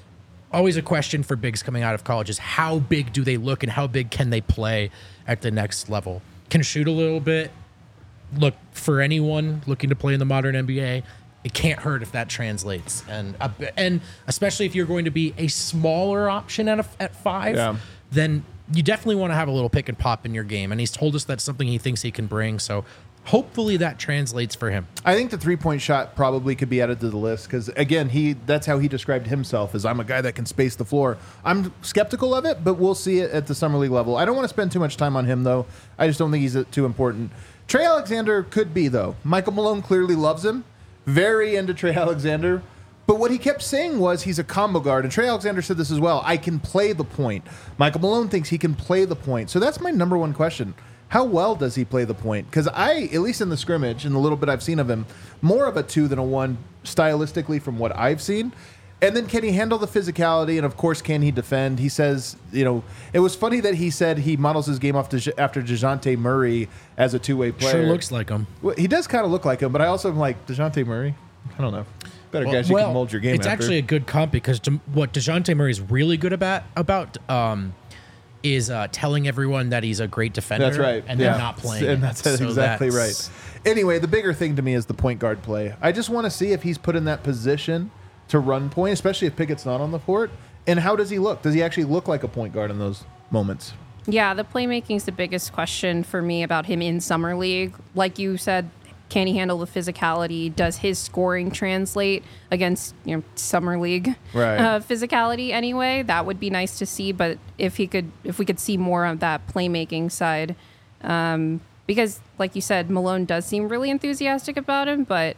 always a question for bigs coming out of college is how big do they look and how big can they play at the next level? Can shoot a little bit. Look, for anyone looking to play in the modern NBA, it can't hurt if that translates. And especially if you're going to be a smaller option at 5, then you definitely want to have a little pick and pop in your game. And he's told us that's something he thinks he can bring. So hopefully that translates for him. I think the three-point shot probably could be added to the list because, again, that's how he described himself, as I'm a guy that can space the floor. I'm skeptical of it, but we'll see it at the Summer League level. I don't want to spend too much time on him, though. I just don't think he's too important. Trey Alexander could be, though. Michael Malone clearly loves him. Very into Trey Alexander. But what he kept saying was he's a combo guard, and Trey Alexander said this as well. I can play the point. Michael Malone thinks he can play the point. So that's my number one question. How well does he play the point? Because at least in the scrimmage, in the little bit I've seen of him, more of a 2 than a 1 stylistically from what I've seen. And then can he handle the physicality? And, of course, can he defend? He says, it was funny that he said he models his game after DeJounte Murray as a two-way player. Sure looks like him. Well, he does kind of look like him, but I also am like, DeJounte Murray? I don't know. Better guys you can mold your game it's after. Actually a good comp because what DeJounte Murray is really good about is telling everyone that he's a great defender. That's right. And then not playing. And that's exactly right. Anyway, the bigger thing to me is the point guard play. I just want to see if he's put in that position to run point, especially if Pickett's not on the court. And how does he look? Does he actually look like a point guard in those moments? Yeah, the playmaking is the biggest question for me about him in Summer League. Like you said, can he handle the physicality? Does his scoring translate against Summer League physicality anyway? That would be nice to see. But if we could see more of that playmaking side, because like you said, Malone does seem really enthusiastic about him, but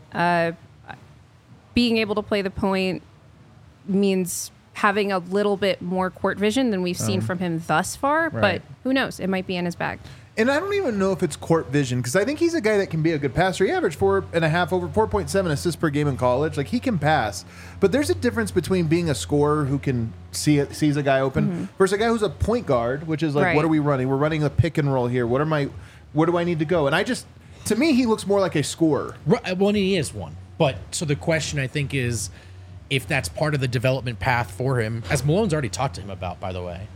being able to play the point means having a little bit more court vision than we've seen from him thus far. Right. But who knows? It might be in his bag. And I don't even know if it's court vision because I think he's a guy that can be a good passer. He averaged 4.5 over 4.7 assists per game in college. Like he can pass, but there's a difference between being a scorer who can sees a guy open versus a guy who's a point guard, which is like, what are we running? We're running a pick and roll here. Where do I need to go? And to me, he looks more like a scorer. Right, well, he is one. But so the question I think is if that's part of the development path for him, as Malone's already talked to him about, by the way.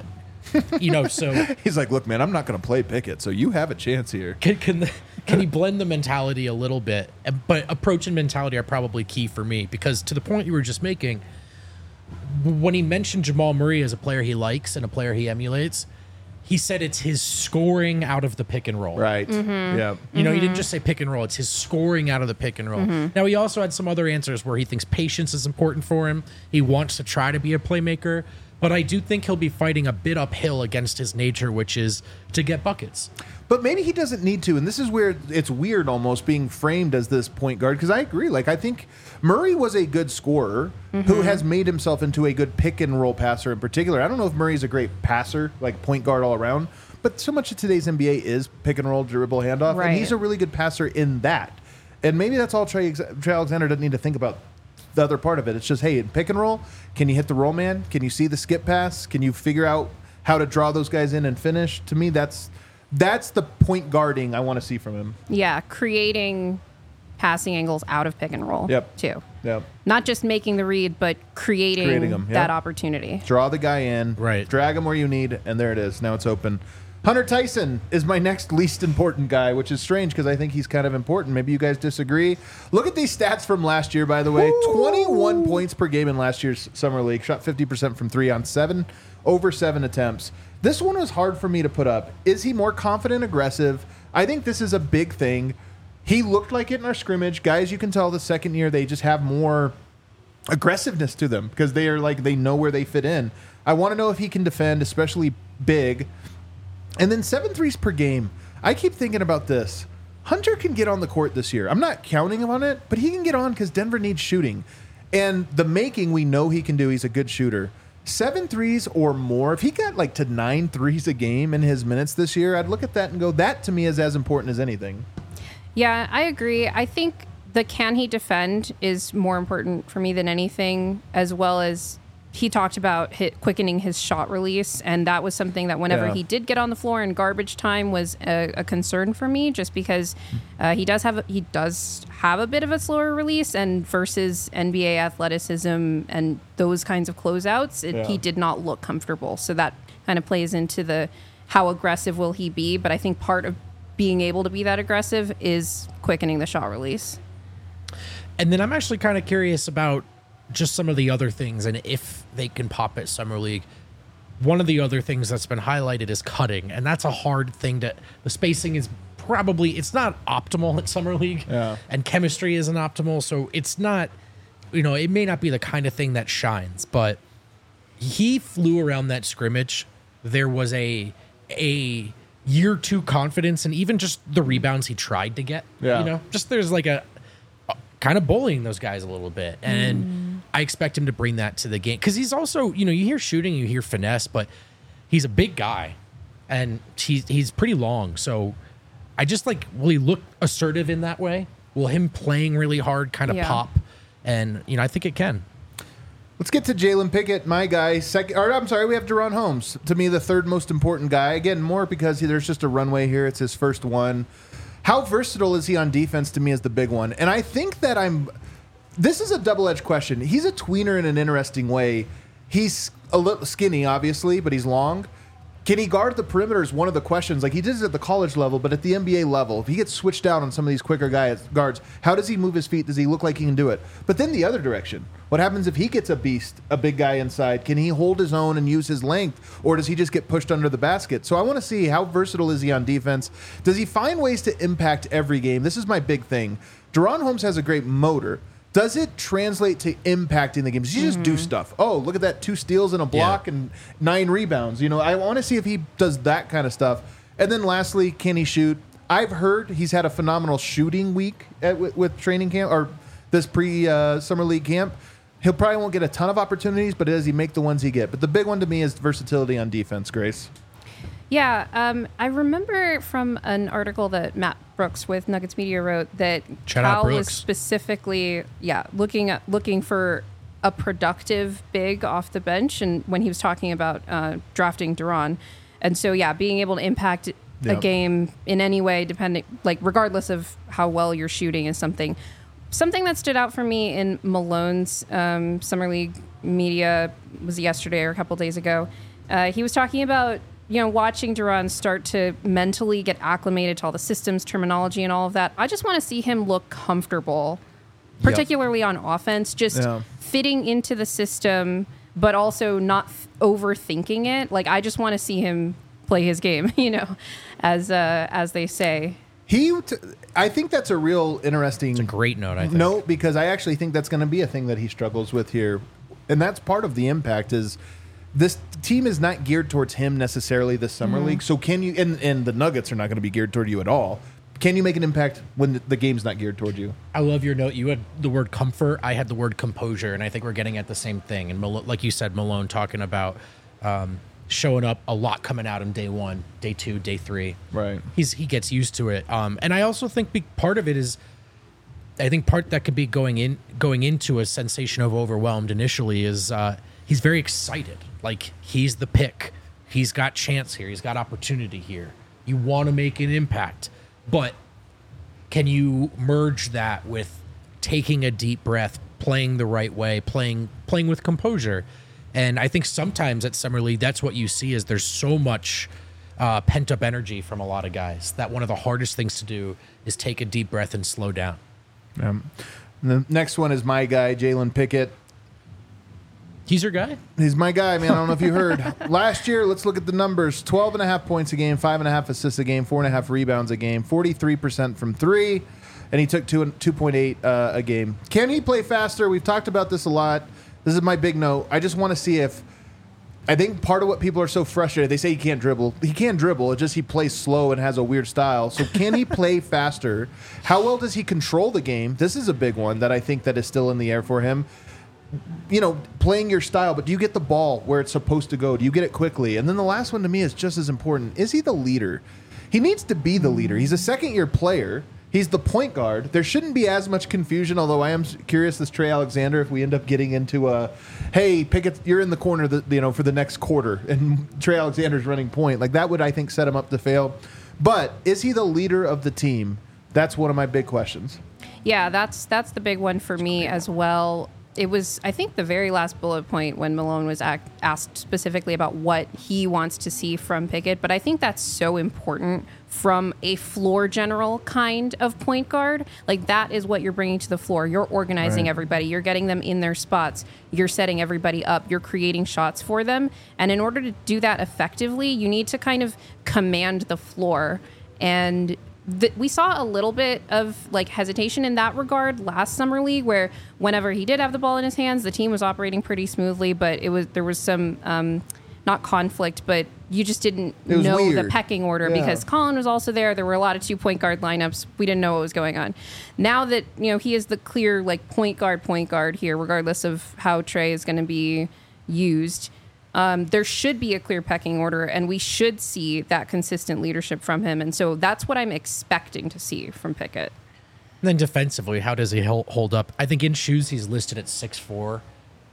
So he's like, look, man, I'm not going to play Pickett, so you have a chance here. Can he blend the mentality a little bit? But approach and mentality are probably key for me because to the point you were just making, when he mentioned Jamal Murray as a player he likes and a player he emulates, he said it's his scoring out of the pick and roll. Right. Mm-hmm. Yeah. He didn't just say pick and roll. It's his scoring out of the pick and roll. Mm-hmm. Now, he also had some other answers where he thinks patience is important for him. He wants to try to be a playmaker. But I do think he'll be fighting a bit uphill against his nature, which is to get buckets. But maybe he doesn't need to. And this is where it's weird almost being framed as this point guard. Because I agree. Like, I think Murray was a good scorer who has made himself into a good pick and roll passer in particular. I don't know if Murray's a great passer, like point guard all around. But so much of today's NBA is pick and roll, dribble, handoff. Right. And he's a really good passer in that. And maybe that's all Trey Alexander doesn't need to think about. The other part of it, it's just, hey, in pick and roll, can you hit the roll man? Can you see the skip pass? Can you figure out how to draw those guys in and finish? To me, that's the point guarding I want to see from him. Yeah, creating passing angles out of pick and roll. Too. Yep. Not just making the read, but creating them, that opportunity. Draw the guy in, right? Drag him where you need, and there it is. Now it's open. Hunter Tyson is my next least important guy, which is strange because I think he's kind of important. Maybe you guys disagree. Look at these stats from last year, by the way. 21 points per game in last year's Summer League. Shot 50% from 3 on over 7 attempts. This one was hard for me to put up. Is he more confident, aggressive? I think this is a big thing. He looked like it in our scrimmage. Guys, you can tell the second year they just have more aggressiveness to them because they know where they fit in. I want to know if he can defend, especially big. And then 7 threes per game. I keep thinking about this. Hunter can get on the court this year. I'm not counting him on it, but he can get on because Denver needs shooting. And the making we know he can do. He's a good shooter. 7 threes or more. If he got to 9 threes a game in his minutes this year, I'd look at that and go, that to me is as important as anything. Yeah, I agree. I think the can he defend is more important for me than anything, as well as he talked about quickening his shot release, and that was something that whenever he did get on the floor in garbage time was a concern for me, just because he does have a bit of a slower release, and versus NBA athleticism and those kinds of closeouts, he did not look comfortable. So that kind of plays into the how aggressive will he be, but I think part of being able to be that aggressive is quickening the shot release. And then I'm actually kind of curious about just some of the other things and if they can pop at Summer League. One of the other things that's been highlighted is cutting, and that's a hard thing the spacing is probably, it's not optimal at Summer League, and chemistry isn't optimal, so it's not, it may not be the kind of thing that shines, but he flew around that scrimmage. There was a year two confidence, and even just the rebounds he tried to get, just there's like a kind of bullying those guys a little bit. And I expect him to bring that to the game. Because he's also, you hear shooting, you hear finesse, but he's a big guy. And he's pretty long. So I just will he look assertive in that way? Will him playing really hard kind of pop? And, I think it can. Let's get to Jalen Pickett, my guy. We have Deron Holmes. To me, the third most important guy. Again, more because there's just a runway here. It's his first one. How versatile is he on defense, to me, is the big one. And I think that this is a double-edged question. He's a tweener in an interesting way. He's a little skinny, obviously, but he's long. Can he guard the perimeter is one of the questions. He did it at the college level, but at the NBA level, if he gets switched out on some of these quicker guards, how does he move his feet? Does he look like he can do it? But then the other direction, what happens if he gets a big guy inside? Can he hold his own and use his length, or does he just get pushed under the basket? So I want to see how versatile is he on defense. Does he find ways to impact every game? This is my big thing. Deron Holmes has a great motor. Does it translate to impacting the game? Does he just do stuff? Oh, look at that, 2 steals and a block and 9 rebounds. I want to see if he does that kind of stuff. And then lastly, can he shoot? I've heard he's had a phenomenal shooting week with training camp or this pre-Summer League camp. He'll probably won't get a ton of opportunities, but does he make the ones he get? But the big one to me is versatility on defense, Grace. Yeah, I remember from an article that Matt Brooks with Nuggets Media wrote that Cal was specifically, looking for a productive big off the bench, and when he was talking about drafting Deron, and so being able to impact a game in any way, regardless of how well you're shooting, is something that stood out for me in Malone's Summer League Media was yesterday or a couple days ago. He was talking about watching Deron start to mentally get acclimated to all the systems, terminology, and all of that. I just want to see him look comfortable, particularly on offense, just fitting into the system, but also not overthinking it. I just want to see him play his game, as they say. I think that's a real interesting. It's a great note, I think. Note, because I actually think that's going to be a thing that he struggles with here, and that's part of the impact is. This team is not geared towards him necessarily this summer league. So can you, and the Nuggets are not going to be geared toward you at all. Can you make an impact when the game's not geared toward you? I love your note. You had the word comfort. I had the word composure, and I think we're getting at the same thing. And like you said, Malone talking about showing up a lot coming out in day 1, day 2, day 3. Right. He gets used to it. And I also think part of it is, I think part that could be going into a sensation of overwhelmed initially is he's very excited. He's the pick. He's got chance here. He's got opportunity here. You want to make an impact. But can you merge that with taking a deep breath, playing the right way, playing with composure? And I think sometimes at Summer League, that's what you see is there's so much pent-up energy from a lot of guys that one of the hardest things to do is take a deep breath and slow down. The next one is my guy, Jalen Pickett. He's your guy? He's my guy, man. I don't know if you heard. Last year, let's look at the numbers. 12.5 points a game, 5.5 assists a game, 4.5 rebounds a game, 43% from 3, and he took 2.8 a game. Can he play faster? We've talked about this a lot. This is my big note. I just want to see if... I think part of what people are so frustrated, they say he can't dribble. He can dribble. It's just he plays slow and has a weird style. So can he play faster? How well does he control the game? This is a big one that I think that is still in the air for him. Playing your style, but do you get the ball where it's supposed to go? Do you get it quickly? And then the last one to me is just as important. Is he the leader? He needs to be the leader. He's a second-year player. He's the point guard. There shouldn't be as much confusion, although I am curious this Trey Alexander, if we end up getting into a, hey, Pickett, you're in the corner for the next quarter, and Trey Alexander's running point. Like, that would, I think, set him up to fail. But is he the leader of the team? That's one of my big questions. Yeah, that's the big one for me as well. It was, I think, the very last bullet point when Malone was asked specifically about what he wants to see from Pickett. But I think that's so important from a floor general kind of point guard. Like, that is what you're bringing to the floor. You're organizing everybody. You're getting them in their spots. You're setting everybody up. You're creating shots for them. And in order to do that effectively, you need to kind of command the floor. And we saw a little bit of like hesitation in that regard last summer league, where whenever he did have the ball in his hands, the team was operating pretty smoothly, but there was some not conflict, but you just didn't know the pecking order because Colin was also there. There were a lot of 2-point guard lineups. We didn't know what was going on. Now that he is the clear like point guard here, regardless of how Trey is going to be used. There should be a clear pecking order, and we should see that consistent leadership from him. And so that's what I'm expecting to see from Pickett. And then defensively, how does he hold up? I think in shoes, he's listed at 6'4".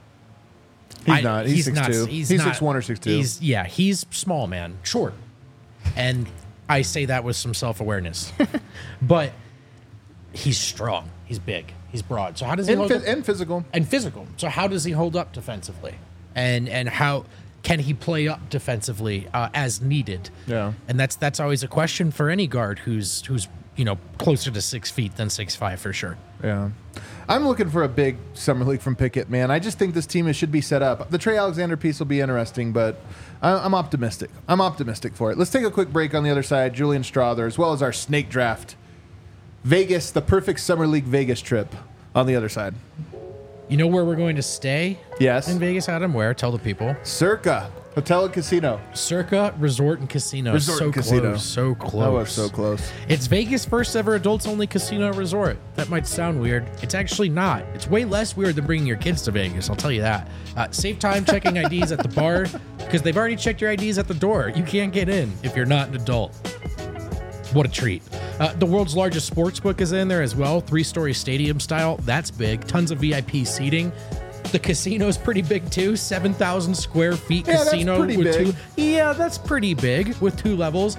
He's not. He's 6'2". He's 6'1" or 6'2". He's small, man. Short. And I say that with some self-awareness. But he's strong. He's big. He's broad. So how does he hold up? And physical. And physical. So how does he hold up defensively? And how can he play up defensively as needed? Yeah. And that's always a question for any guard who's closer to 6 feet than 6'5" for sure. Yeah. I'm looking for a big summer league from Pickett, man. I just think this team should be set up. The Trey Alexander piece will be interesting, but I'm optimistic. I'm optimistic for it. Let's take a quick break on the other side. Julian Strother, as well as our snake draft. Vegas, the perfect summer league Vegas trip on the other side. You know where we're going to stay? Yes. In Vegas, Adam? Where? Tell the people. Circa Hotel and Casino. Circa Resort and Casino. Resort and Casino. So close. Oh, we're so close. It's Vegas' first ever adults-only casino resort. That might sound weird. It's actually not. It's way less weird than bringing your kids to Vegas, I'll tell you that. Save time checking IDs at the bar because they've already checked your IDs at the door. You can't get in if you're not an adult. What a treat. The world's largest sportsbook is in there as well. 3-story stadium style. That's big. Tons of VIP seating. The casino's pretty big too. 7,000 square feet casino. That's pretty big. Yeah, that's pretty big with 2 levels.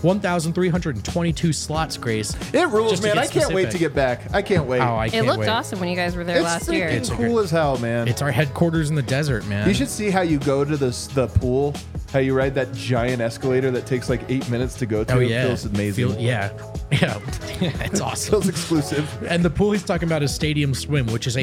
1,322 slots, Grace. It rules, man. I can't wait to get back. I can't wait. Oh, I can't It looked wait. awesome when you guys were there last year. It's cool as hell, man. It's our headquarters in the desert, man. You should see how you go to the pool, how you ride that giant escalator that takes like 8 minutes to go to. Oh, yeah. It feels amazing. Yeah. It's awesome. Feels exclusive. And the pool he's talking about is Stadium Swim, which is a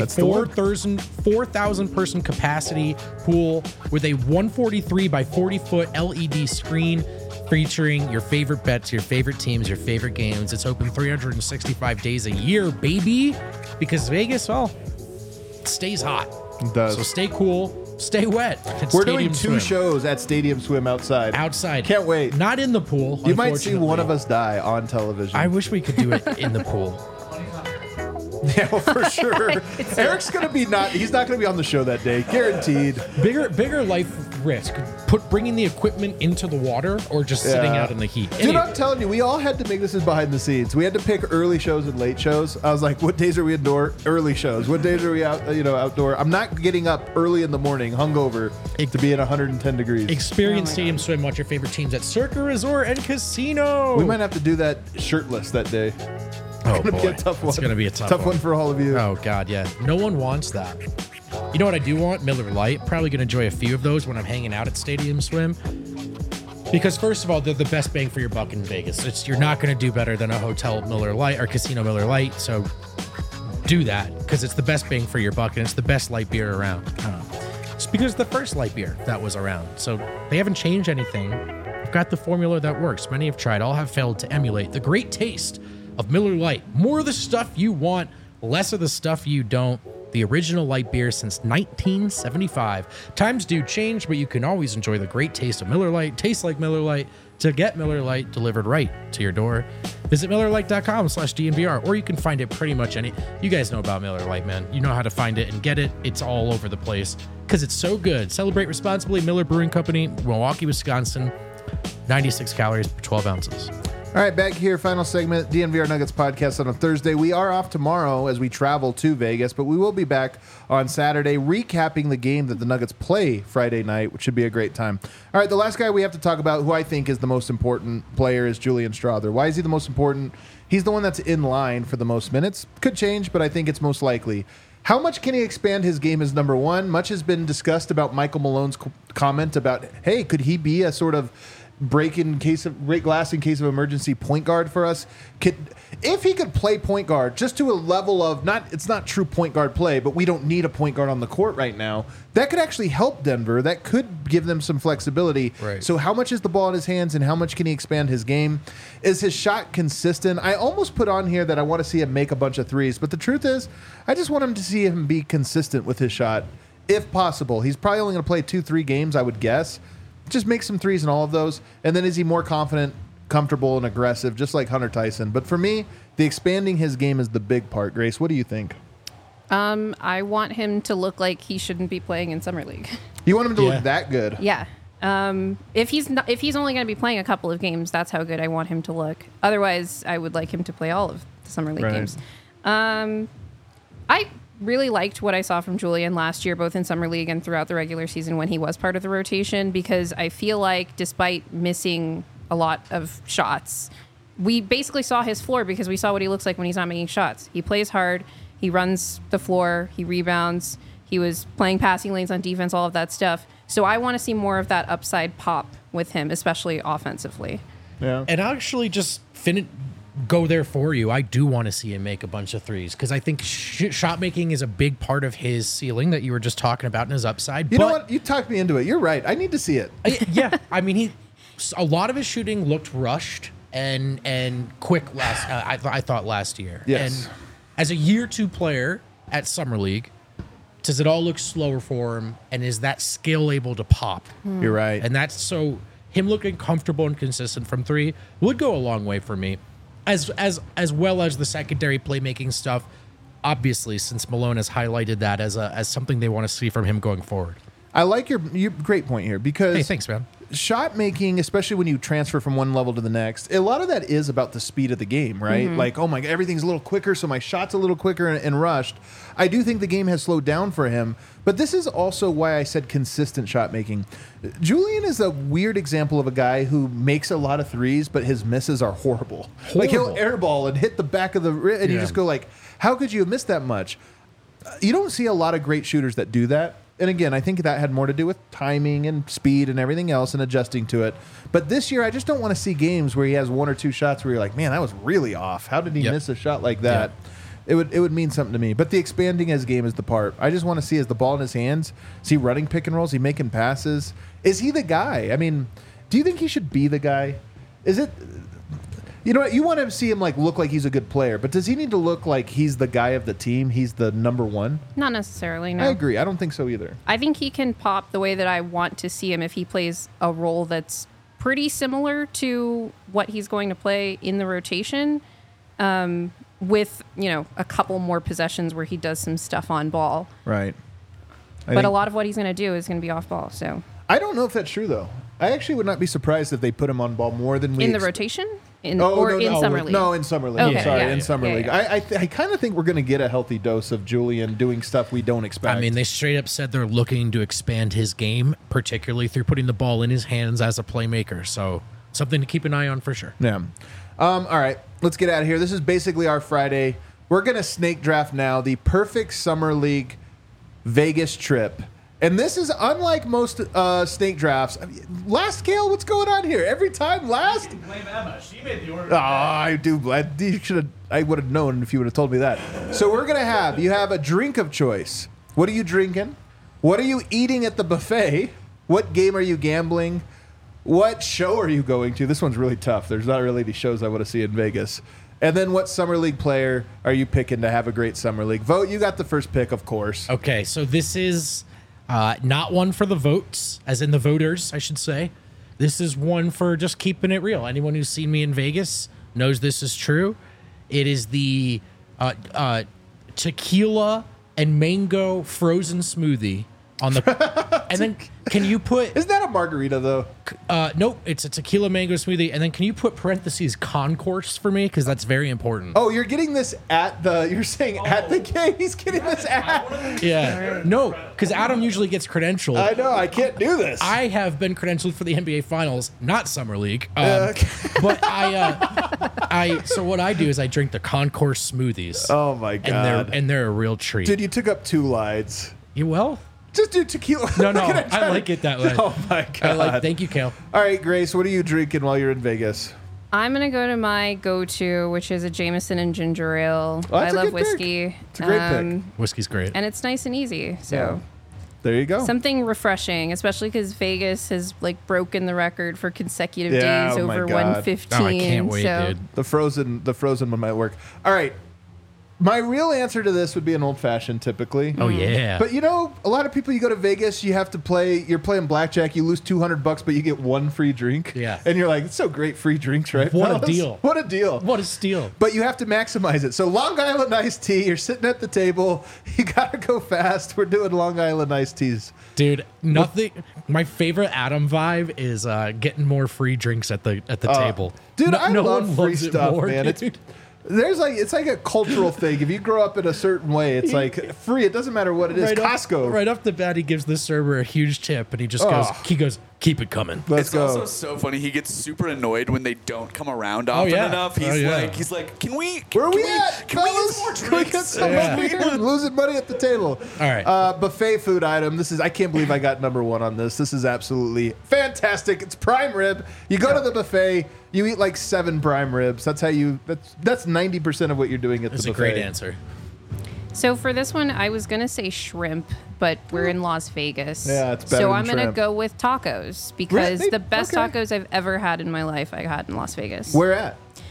4,000 person capacity pool with a 143 by 40 foot LED screen featuring your favorite bets, your favorite teams, your favorite games. It's open 365 days a year, baby, because Vegas, well, it stays hot. It does. So stay cool, stay wet. We're doing 2 shows at Stadium Swim outside. Can't wait. Not in the pool. You might see one of us die on television. I wish we could do it in the pool. Yeah, well, for sure. Eric's gonna be he's not gonna be on the show that day, guaranteed. Bigger life risk. Bringing the equipment into the water or just sitting out in the heat. Dude, I'm telling you, we all had to make this as behind the scenes. We had to pick early shows and late shows. I was like, what days are we indoor? Early shows. What days are we outdoor? I'm not getting up early in the morning, hungover, to be at 110 degrees. Experience Stadium Swim. Watch your favorite teams at Circa Resort and Casino. We might have to do that shirtless that day. Oh, it's gonna be a tough one. It's gonna be a tough one for all of you. Oh God, yeah. No one wants that. You know what I do want? Miller Lite. Probably gonna enjoy a few of those when I'm hanging out at Stadium Swim. Because first of all, they're the best bang for your buck in Vegas. You're not gonna do better than a hotel Miller Lite or casino Miller Lite. So do that because it's the best bang for your buck and it's the best light beer around. It's because it's the first light beer that was around. So they haven't changed anything. They've got the formula that works. Many have tried. All have failed to emulate the great taste of Miller Lite. More of the stuff you want, less of the stuff you don't. The original light beer since 1975. Times do change, but you can always enjoy the great taste of Miller Lite. Tastes like Miller Lite. To get Miller Lite delivered right to your door, visit MillerLite.com/DNVR, or you can find it pretty much you guys know about Miller Lite, man. You know how to find it and get it. It's all over the place because it's so good. Celebrate responsibly. Miller Brewing Company, Milwaukee, Wisconsin. 96 calories per 12 ounces. All All right, back here, final segment, DNVR Nuggets podcast on a Thursday. We are off tomorrow as we travel to Vegas, but we will be back on Saturday recapping the game that the Nuggets play Friday night, which should be a great time. All right, the last guy we have to talk about, who I think is the most important player, is Julian Strawther. Why is he the most important? He's the one that's in line for the most minutes. Could change, but I think it's most likely. How much can he expand his game as number one? Much has been discussed about Michael Malone's comment about, hey, could he be a sort of break glass in case of emergency point guard for us? If he could play point guard just to a level of it's not true point guard play, but we don't need a point guard on the court right now, that could actually help Denver. That could give them some flexibility. Right. So how much is the ball in his hands and how much can he expand his game? Is his shot consistent? I almost put on here that I want to see him make a bunch of threes, but the truth is I just want him to see him be consistent with his shot if possible. He's probably only going to play 2-3 games, I would guess. Just make some threes in all of those. And then is he more confident, comfortable, and aggressive, just like Hunter Tyson? But for me, the expanding his game is the big part. Grace, what do you think? I want him to look like he shouldn't be playing in Summer League. You want him to look that good? Yeah. If he's only going to be playing a couple of games, that's how good I want him to look. Otherwise, I would like him to play all of the Summer League games. I really liked what I saw from Julian last year, both in Summer League and throughout the regular season when he was part of the rotation, because I feel like despite missing a lot of shots, we basically saw his floor because we saw what he looks like when he's not making shots. He plays hard. He runs the floor. He rebounds. He was playing passing lanes on defense, all of that stuff. So I want to see more of that upside pop with him, especially offensively. Yeah. And I'll actually just go there for you. I do want to see him make a bunch of threes because I think shot making is a big part of his ceiling that you were just talking about in his upside. You know what? You talked me into it. You're right. I need to see it. Yeah. I mean, a lot of his shooting looked rushed and quick I thought last year. Yes. And as a year 2 player at Summer League, does it all look slower for him? And is that skill able to pop? You're right. And that's so him looking comfortable and consistent from 3 would go a long way for me. As well as the secondary playmaking stuff, obviously, since Malone has highlighted that as something they want to see from him going forward. I like your great point here because Hey, thanks, man. Shot making, especially when you transfer from one level to the next, a lot of that is about the speed of the game, right? Like, oh my God, everything's a little quicker, so my shot's a little quicker and rushed. I do think the game has slowed down for him, but this is also why I said consistent shot making. Julian is a weird example of a guy who makes a lot of threes, but his misses are horrible. Like he'll airball and hit the back of the and you just go like, how could you have missed that much? You don't see a lot of great shooters that do that. And again, I think that had more to do with timing and speed and everything else and adjusting to it. But this year, I just don't want to see games where he has 1 or 2 shots where you're like, man, that was really off. How did he miss a shot like that? It would mean something to me. But the expanding his game is the part. I just want to see, is the ball in his hands? Is he running pick and rolls? Is he making passes? Is he the guy? I mean, do you think he should be the guy? Is it... You know what? You want to see him look like he's a good player, but does he need to look like he's the guy of the team? He's the number one? Not necessarily, no. I agree. I don't think so either. I think he can pop the way that I want to see him if he plays a role that's pretty similar to what he's going to play in the rotation, with, a couple more possessions where he does some stuff on ball. Right. But a lot of what he's going to do is going to be off ball, so... I don't know if that's true, though. I actually would not be surprised if they put him on ball more than we... In the rotation? In Summer League? No, in Summer League. Okay, Sorry, yeah, in Summer League. yeah. I kind of think we're going to get a healthy dose of Julian doing stuff we don't expect. I mean, they straight up said they're looking to expand his game, particularly through putting the ball in his hands as a playmaker. So something to keep an eye on for sure. Yeah. All right, let's get out of here. This is basically our Friday. We're going to snake draft now the perfect Summer League Vegas trip. And this is unlike most snake drafts. Last, Kale, what's going on here? Every time last? You can blame Emma. She made the order. Oh, I do. I would have known if you would have told me that. So we're going to you have a drink of choice. What are you drinking? What are you eating at the buffet? What game are you gambling? What show are you going to? This one's really tough. There's not really any shows I want to see in Vegas. And then what Summer League player are you picking to have a great Summer League? Vote, you got the first pick, of course. Okay, so this is... not one for the votes, as in the voters, I should say. This is one for just keeping it real. Anyone who's seen me in Vegas knows this is true. It is the tequila and mango frozen smoothie on the And then can you put Isn't that a margarita though? nope, it's a tequila mango smoothie, and then can you put parentheses concourse for me, because that's very important. Oh, you're getting this at the. You're saying at the game. He's getting this at. Yeah, no, because Adam usually gets credentialed. I know. I can't do this. I have been credentialed for the NBA Finals, not Summer League. Okay. But so what I do is I drink the concourse smoothies. Oh my god. And they're a real treat. Dude, you took up 2 lides. You will? Just do tequila. No, Look at I like it that way. Oh my god. Thank you, Kale. All right, Grace. What are you drinking while you're in Vegas? I'm gonna go to my go-to, which is a Jameson and ginger ale. Oh, that's I a love good pick. whiskey. It's a great pick. Whiskey's great. And it's nice and easy. So There you go. something refreshing, especially because Vegas has like broken the record for consecutive Yeah, days oh my over God. 115. Oh, I can't wait, so dude. The frozen one might work. All right. My real answer to this would be an old fashioned, typically. Oh yeah. But you know, a lot of people, you go to Vegas, you have to play. You're playing blackjack. You lose $200, but you get 1 free drink. Yeah. And you're like, it's so great, free drinks, right? What a fellas? deal. What a deal. What a steal. But you have to maximize it. So Long Island iced tea. You're sitting at the table. You gotta go fast. We're doing Long Island iced teas. Dude, nothing. My favorite Adam vibe is getting more free drinks at the table. Dude, No- I no love one free loves it stuff, more, man. dude. It's like a cultural thing. If you grow up in a certain way, it's like free. It doesn't matter what it is. Costco. Right off the bat, he gives the server a huge tip, and he just Oh. goes, keep it coming. Let's It's go. also so funny. He gets super annoyed when they don't come around often yeah. enough. Oh, yeah. He's like, can we? Where are can we at? Can we fellas? get some more Can we drinks? get some Yeah. money? We're losing money at the table. All right. Buffet food item. I can't believe I got number 1 on this. This is absolutely fantastic. It's prime rib. You go to the buffet, you eat like 7 prime ribs. That's 90% of what you're doing at That's the a buffet. great answer. So for this one, I was gonna say shrimp, but we're in Las Vegas. Yeah, it's better So than I'm gonna shrimp. go with tacos because Really? the best Okay. tacos I've ever had in my life I had in Las Vegas. Where at?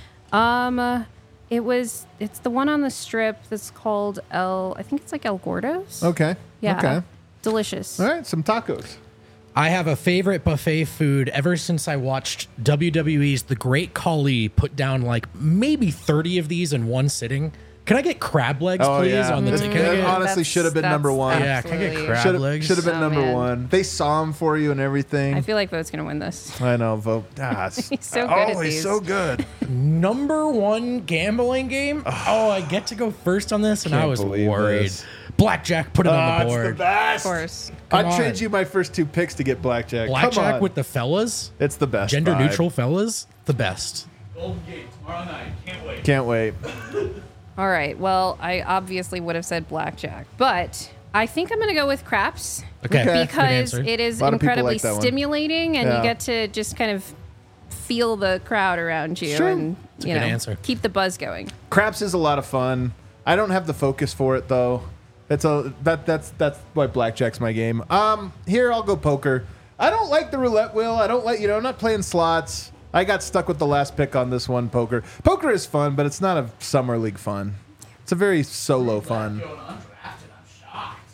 It's the one on the strip that's called I think it's like El Gordo's. Okay. Yeah. Okay. Delicious. All right. Some tacos. I have a favorite buffet food ever since I watched WWE's The Great Khali put down like maybe 30 of these in one sitting. Can I get crab legs, please? On the That- ticket? that honestly should have been number 1. Yeah, can I get absolutely- crab legs? Should have been Oh, number man. 1. They saw him for you and everything. I feel like Vote's gonna win this. I know, Vote. He's so good at he's these. so good. Number 1 gambling game? Oh, I get to go first on this, and I Can't was believe worried. this. Blackjack, put it on the It's the board. best. Of course. Come I'd on. trade you my first 2 picks to get blackjack. Come Blackjack on. with the fellas, It's the best. gender vibe. neutral fellas, the best. Golden Gate tomorrow night. Can't wait. Can't wait. All right. Well, I obviously would have said blackjack, but I think I'm gonna go with craps. Okay, Okay. good Because answer. it is A lot of people incredibly like that one. stimulating and Yeah. you get to just kind of feel the crowd around you Sure. and a you good know answer. keep the buzz going. Craps is a lot of fun. I don't have the focus for it though. That's why blackjack's my game. Here I'll go poker. I don't like the roulette wheel. I don't like I'm not playing slots. I got stuck with the last pick on this one, poker. Poker is fun, but it's not a summer league fun. It's a very solo fun. Going undrafted. I'm shocked.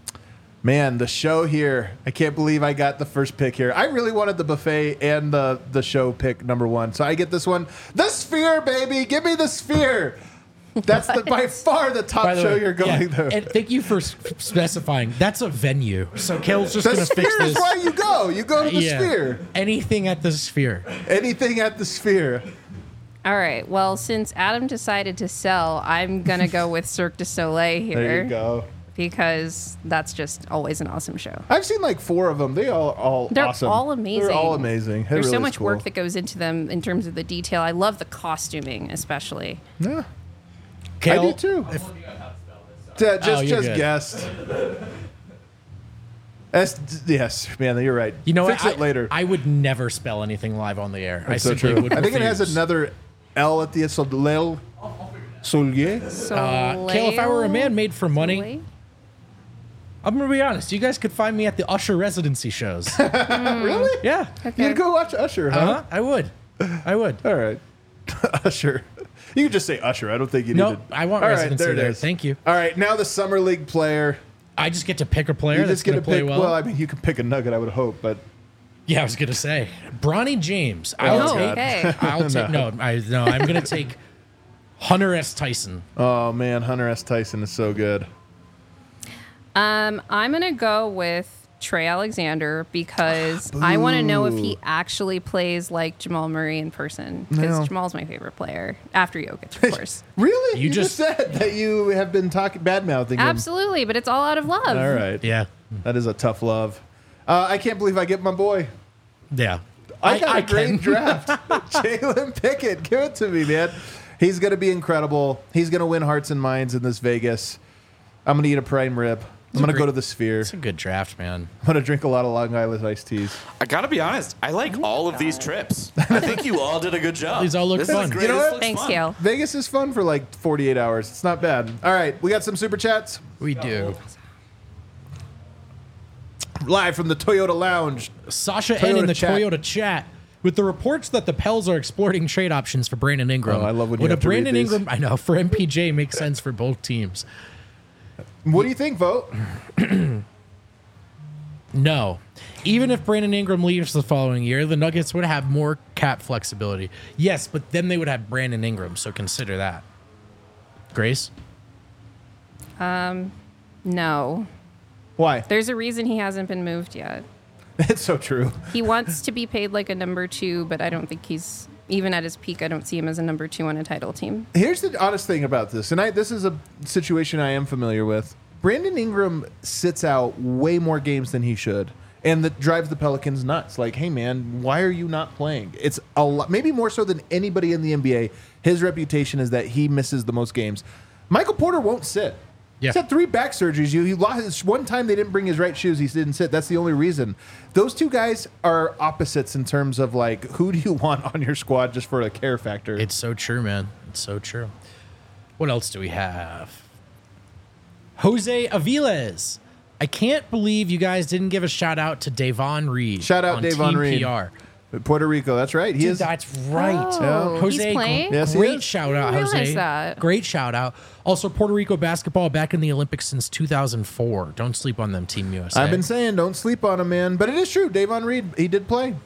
Man, the show here. I can't believe I got the first pick here. I really wanted the buffet and the show pick number 1. So I get this one. The Sphere, baby. Give me the Sphere. That's by far the top By the show way, you're going yeah, to. and thank you for specifying. That's a venue. So Kale's just The going to fix Sphere is this. why you go. You go to the Yeah. Sphere. Anything at the Sphere. Anything at the Sphere. All right. Well, since Adam decided to sell, I'm gonna go with Cirque du Soleil here There you go. because that's just always an awesome show. I've seen like 4 of them. They all They're awesome. all amazing. They're all amazing. It There's really so is much cool. work that goes into them in terms of the detail. I love the costuming, especially. Yeah, Kale, I do too. if- Just Oh, you're just good. guessed. Yes, man, you're right. you know Fix what? it later. I would never spell anything live on the air. That's I so simply true. would I think it has refuse. another L at the end. So Lel Solier. Kale, if I were a man made for money, Soleil? I'm going to be honest. You guys could find me at the Usher residency shows. Really? Yeah. You'd go watch Usher, huh? Uh-huh. I would. I would. All right. Usher. You can just say Usher. I don't think you need Nope, to. I want All right, residency it there. is. Thank you. All right, now the Summer League player. I just get to pick a player You that's just going get to to play pick. well. Well, I mean, you can pick a nugget, I would hope, but Yeah, I was gonna say Bronny James. Oh, I'll Oh, take. okay. I'll take. No, I'm gonna take Hunter S. Tyson. oh man, Hunter S. Tyson is so good. I'm gonna go with Trey Alexander because I want to know if he actually plays like Jamal Murray in person. Because No. Jamal's my favorite player after Jokic, of course. Really? You You just said that you have been talking bad-mouthing him. Absolutely, but it's all out of love. All right. Yeah. That is a tough love. I can't believe I get my boy. Yeah. I got a can. great draft. Jalen Pickett. Give it to me, man. He's going to be incredible. He's going to win hearts and minds in this Vegas. I'm going to eat a prime rib. I'm going to go to the Sphere. It's a good draft, man. I'm going to drink a lot of Long Island iced teas. I gotta be honest. I like all of these trips. I think you all did a good job. These all look This is fun. great. You know This what? looks Thanks, fun. Kale. Vegas is fun for like 48 hours. It's not bad. All right. We got some super chats. We do. Live from the Toyota Lounge. Sasha N in Toyota the chat. Toyota chat. With the reports that the Pels are exploring trade options for Brandon Ingram. Oh, I love when you would have a to read Brandon these. Ingram, I know, for MPJ makes sense for both teams. What do you think, Vote? No. Even if Brandon Ingram leaves the following year, the Nuggets would have more cap flexibility. Yes, but then they would have Brandon Ingram, so consider that. Grace? No. Why? There's a reason he hasn't been moved yet. It's so true. He wants to be paid like a number 2, but I don't think he's, even at his peak, I don't see him as a number 2 on a title team. Here's the honest thing about this, and this is a situation I am familiar with. Brandon Ingram sits out way more games than he should, and that drives the Pelicans nuts. Like, hey man, why are you not playing? It's a lot, maybe more so than anybody in the NBA. His reputation is that he misses the most games. Michael Porter won't sit. Yeah. He's had 3 back surgeries. He lost one time. They didn't bring his right shoes. He didn't sit. That's the only reason. Those two guys are opposites in terms of like who do you want on your squad just for a care factor. It's so true, man. It's so true. What else do we have? Jose Aviles. I can't believe you guys didn't give a shout out to Davon Reed. Shout out on Davon Team Reed. PR. Puerto Rico. That's right. He Dude, is. that's right. Oh, Jose, he's playing? Yes, he great is. shout out, I didn't Jose. realize that. Great shout out. Also, Puerto Rico basketball back in the Olympics since 2004. Don't sleep on them, Team USA. I've been saying don't sleep on him, man. But it is true. Davon Reed, he did play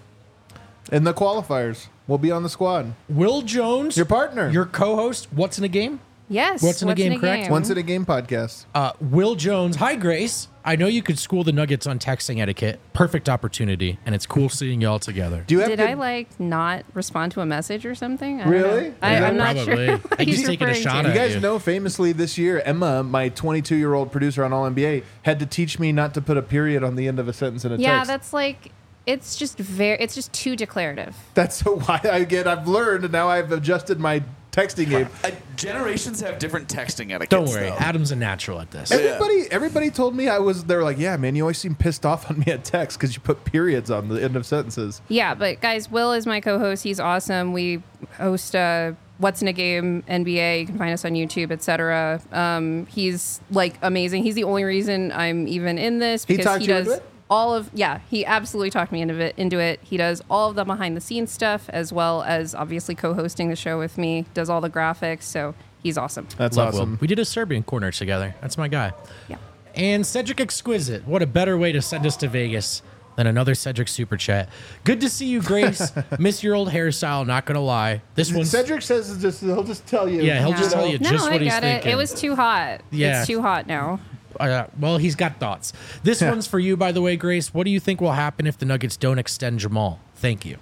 in the qualifiers. We'll be on the squad. Will Jones, Your partner. your co-host. What's in a game? Yes. What's in a game, correct? Once in a game podcast. Will Jones. Hi, Grace. I know you could school the Nuggets on texting etiquette. Perfect opportunity, and it's cool seeing y'all together. Do you have Did good- I like not respond to a message or something? I don't Really? know. I'm not Probably. sure. I what think he's he's taking a referring shot to. at You guys you. know famously this year, Emma, my 22-year-old producer on All NBA, had to teach me not to put a period on the end of a sentence in a Yeah, text. that's like it's just too declarative. That's so why I've learned, and now I've adjusted my texting game. Generations have different texting etiquettes. Don't worry, though. Adam's a natural at this. Everybody told me they were like, yeah, man, you always seem pissed off on me at text because you put periods on the end of sentences. Yeah, but guys, Will is my co-host. He's awesome. We host What's in a Game NBA. You can find us on YouTube, etc. He's like amazing. He's the only reason I'm even in this He because talked he you does into it? all of he absolutely talked me into it. He does all of the behind the scenes stuff as well as obviously co-hosting the show with me. Does all the graphics, so he's awesome. That's Love awesome. Will. We did a Serbian corner together. That's my guy. Yeah. And Cedric Exquisite. What a better way to send us to Vegas than another Cedric super chat. Good to see you, Grace. Miss your old hairstyle. Not gonna lie. This one's Cedric says he'll just tell you. Yeah, he'll just tell you No, just I what he's get thinking. it. It was too hot. Yeah. It's too hot now. Well, he's got thoughts. This one's for you, by the way, Grace. What do you think will happen if the Nuggets don't extend Jamal? Thank you.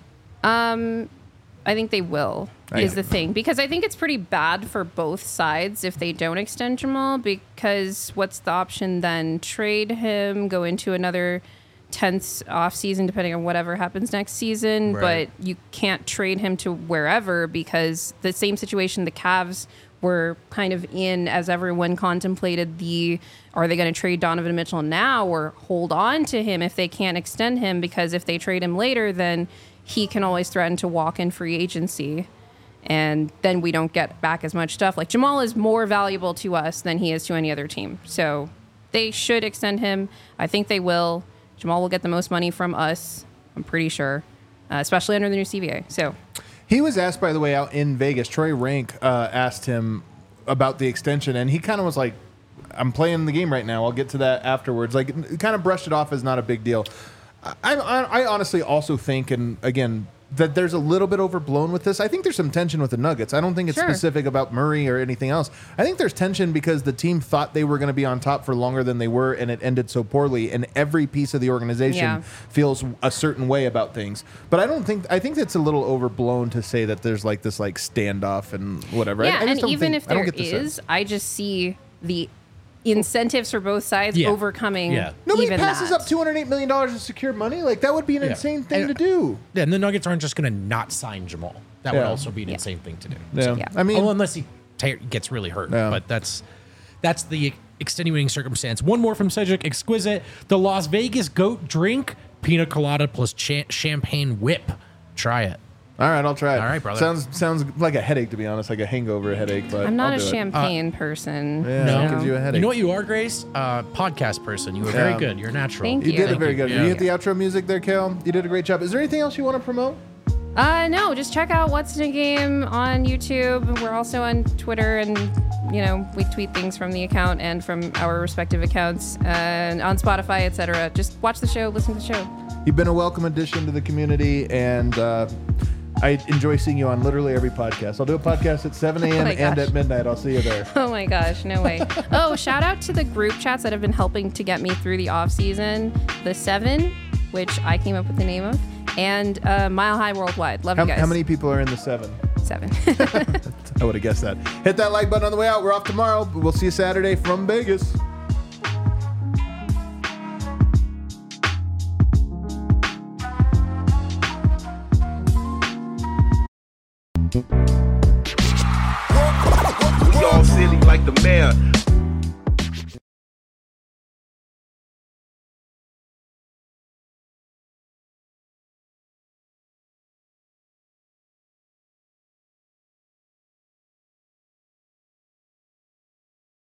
I think they will, is the thing. Because I think it's pretty bad for both sides if they don't extend Jamal, because what's the option then? Trade him, go into another tense offseason, depending on whatever happens next season. Right. But you can't trade him to wherever because the same situation the Cavs were kind of in as everyone contemplated are they going to trade Donovan Mitchell now or hold on to him if they can't extend him? Because if they trade him later, then he can always threaten to walk in free agency. And then we don't get back as much stuff. Like Jamal is more valuable to us than he is to any other team. So they should extend him. I think they will. Jamal will get the most money from us, I'm pretty sure, especially under the new CBA. So He was asked, by the way, out in Vegas. Troy Rank asked him about the extension, and he kind of was like, I'm playing the game right now. I'll get to that afterwards. Like, kind of brushed it off as not a big deal. I honestly also think, and again, that there's a little bit overblown with this. I think there's some tension with the Nuggets. I don't think it's specific about Murray or anything else. I think there's tension because the team thought they were going to be on top for longer than they were, and it ended so poorly. And every piece of the organization feels a certain way about things. But I think it's a little overblown to say that there's like this like standoff and whatever. Yeah, I just and don't even think, if there is, I just see the incentives for both sides overcoming. Yeah. Nobody even passes that. up $208 million in secure money. Like, that would be an insane thing And- to do. Yeah, and the Nuggets aren't just going to not sign Jamal. That would also be an insane thing to do. Yeah. Yeah. I mean, Unless he gets really hurt. Yeah. But that's the extenuating circumstance. One more from Cedric Exquisite. The Las Vegas Goat drink, pina colada plus champagne whip. Try it. all right, I'll try it. All right, brother. Sounds like a headache, to be honest, like a hangover headache. But I'm not I'll a do it. champagne person. Yeah, No. it gives you a headache. You know what you are, Grace? Podcast person. You were very Yeah. good. You're natural. Thank You did you. it very good. Yeah. You hit the outro music there, Kale. You did a great job. Is there anything else you want to promote? No, just check out What's in a Game on YouTube. We're also on Twitter, and we tweet things from the account and from our respective accounts, and on Spotify, etc. Just watch the show, listen to the show. You've been a welcome addition to the community, and I enjoy seeing you on literally every podcast. I'll do a podcast at 7 a.m. my and gosh. at midnight. I'll see you there. Oh my gosh, no way. Oh, shout out to the group chats that have been helping to get me through the off season. The 7, which I came up with the name of, and Mile High Worldwide. Love you guys. How many people are in the 7? 7. I would have guessed that. Hit that like button on the way out. We're off tomorrow. We'll see you Saturday from Vegas.